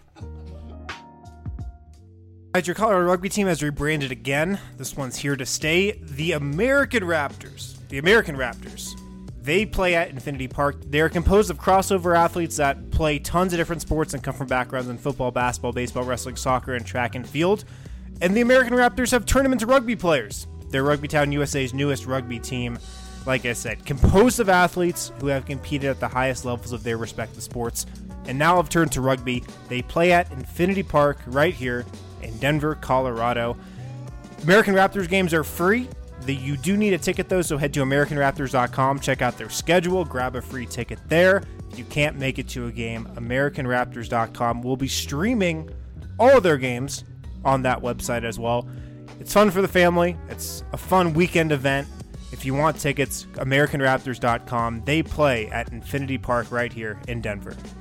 Right, your Colorado rugby team has rebranded again. This one's here to stay. The American Raptors. The American Raptors. They play at Infinity Park. They are composed of crossover athletes that play tons of different sports and come from backgrounds in football, basketball, baseball, wrestling, soccer, and track and field. And the American Raptors have turned them into rugby players. They're Rugby Town U S A's newest rugby team. Like I said, composed of athletes who have competed at the highest levels of their respective sports and now have turned to rugby. They play at Infinity Park right here in Denver, Colorado. American Raptors games are free. The, you do need a ticket though, so head to American Raptors dot com, check out their schedule, grab a free ticket there. If you can't make it to a game, American Raptors dot com will be streaming all of their games on that website as well. It's fun for the family. It's a fun weekend event. If you want tickets, American Raptors dot com. They play at Infinity Park right here in Denver.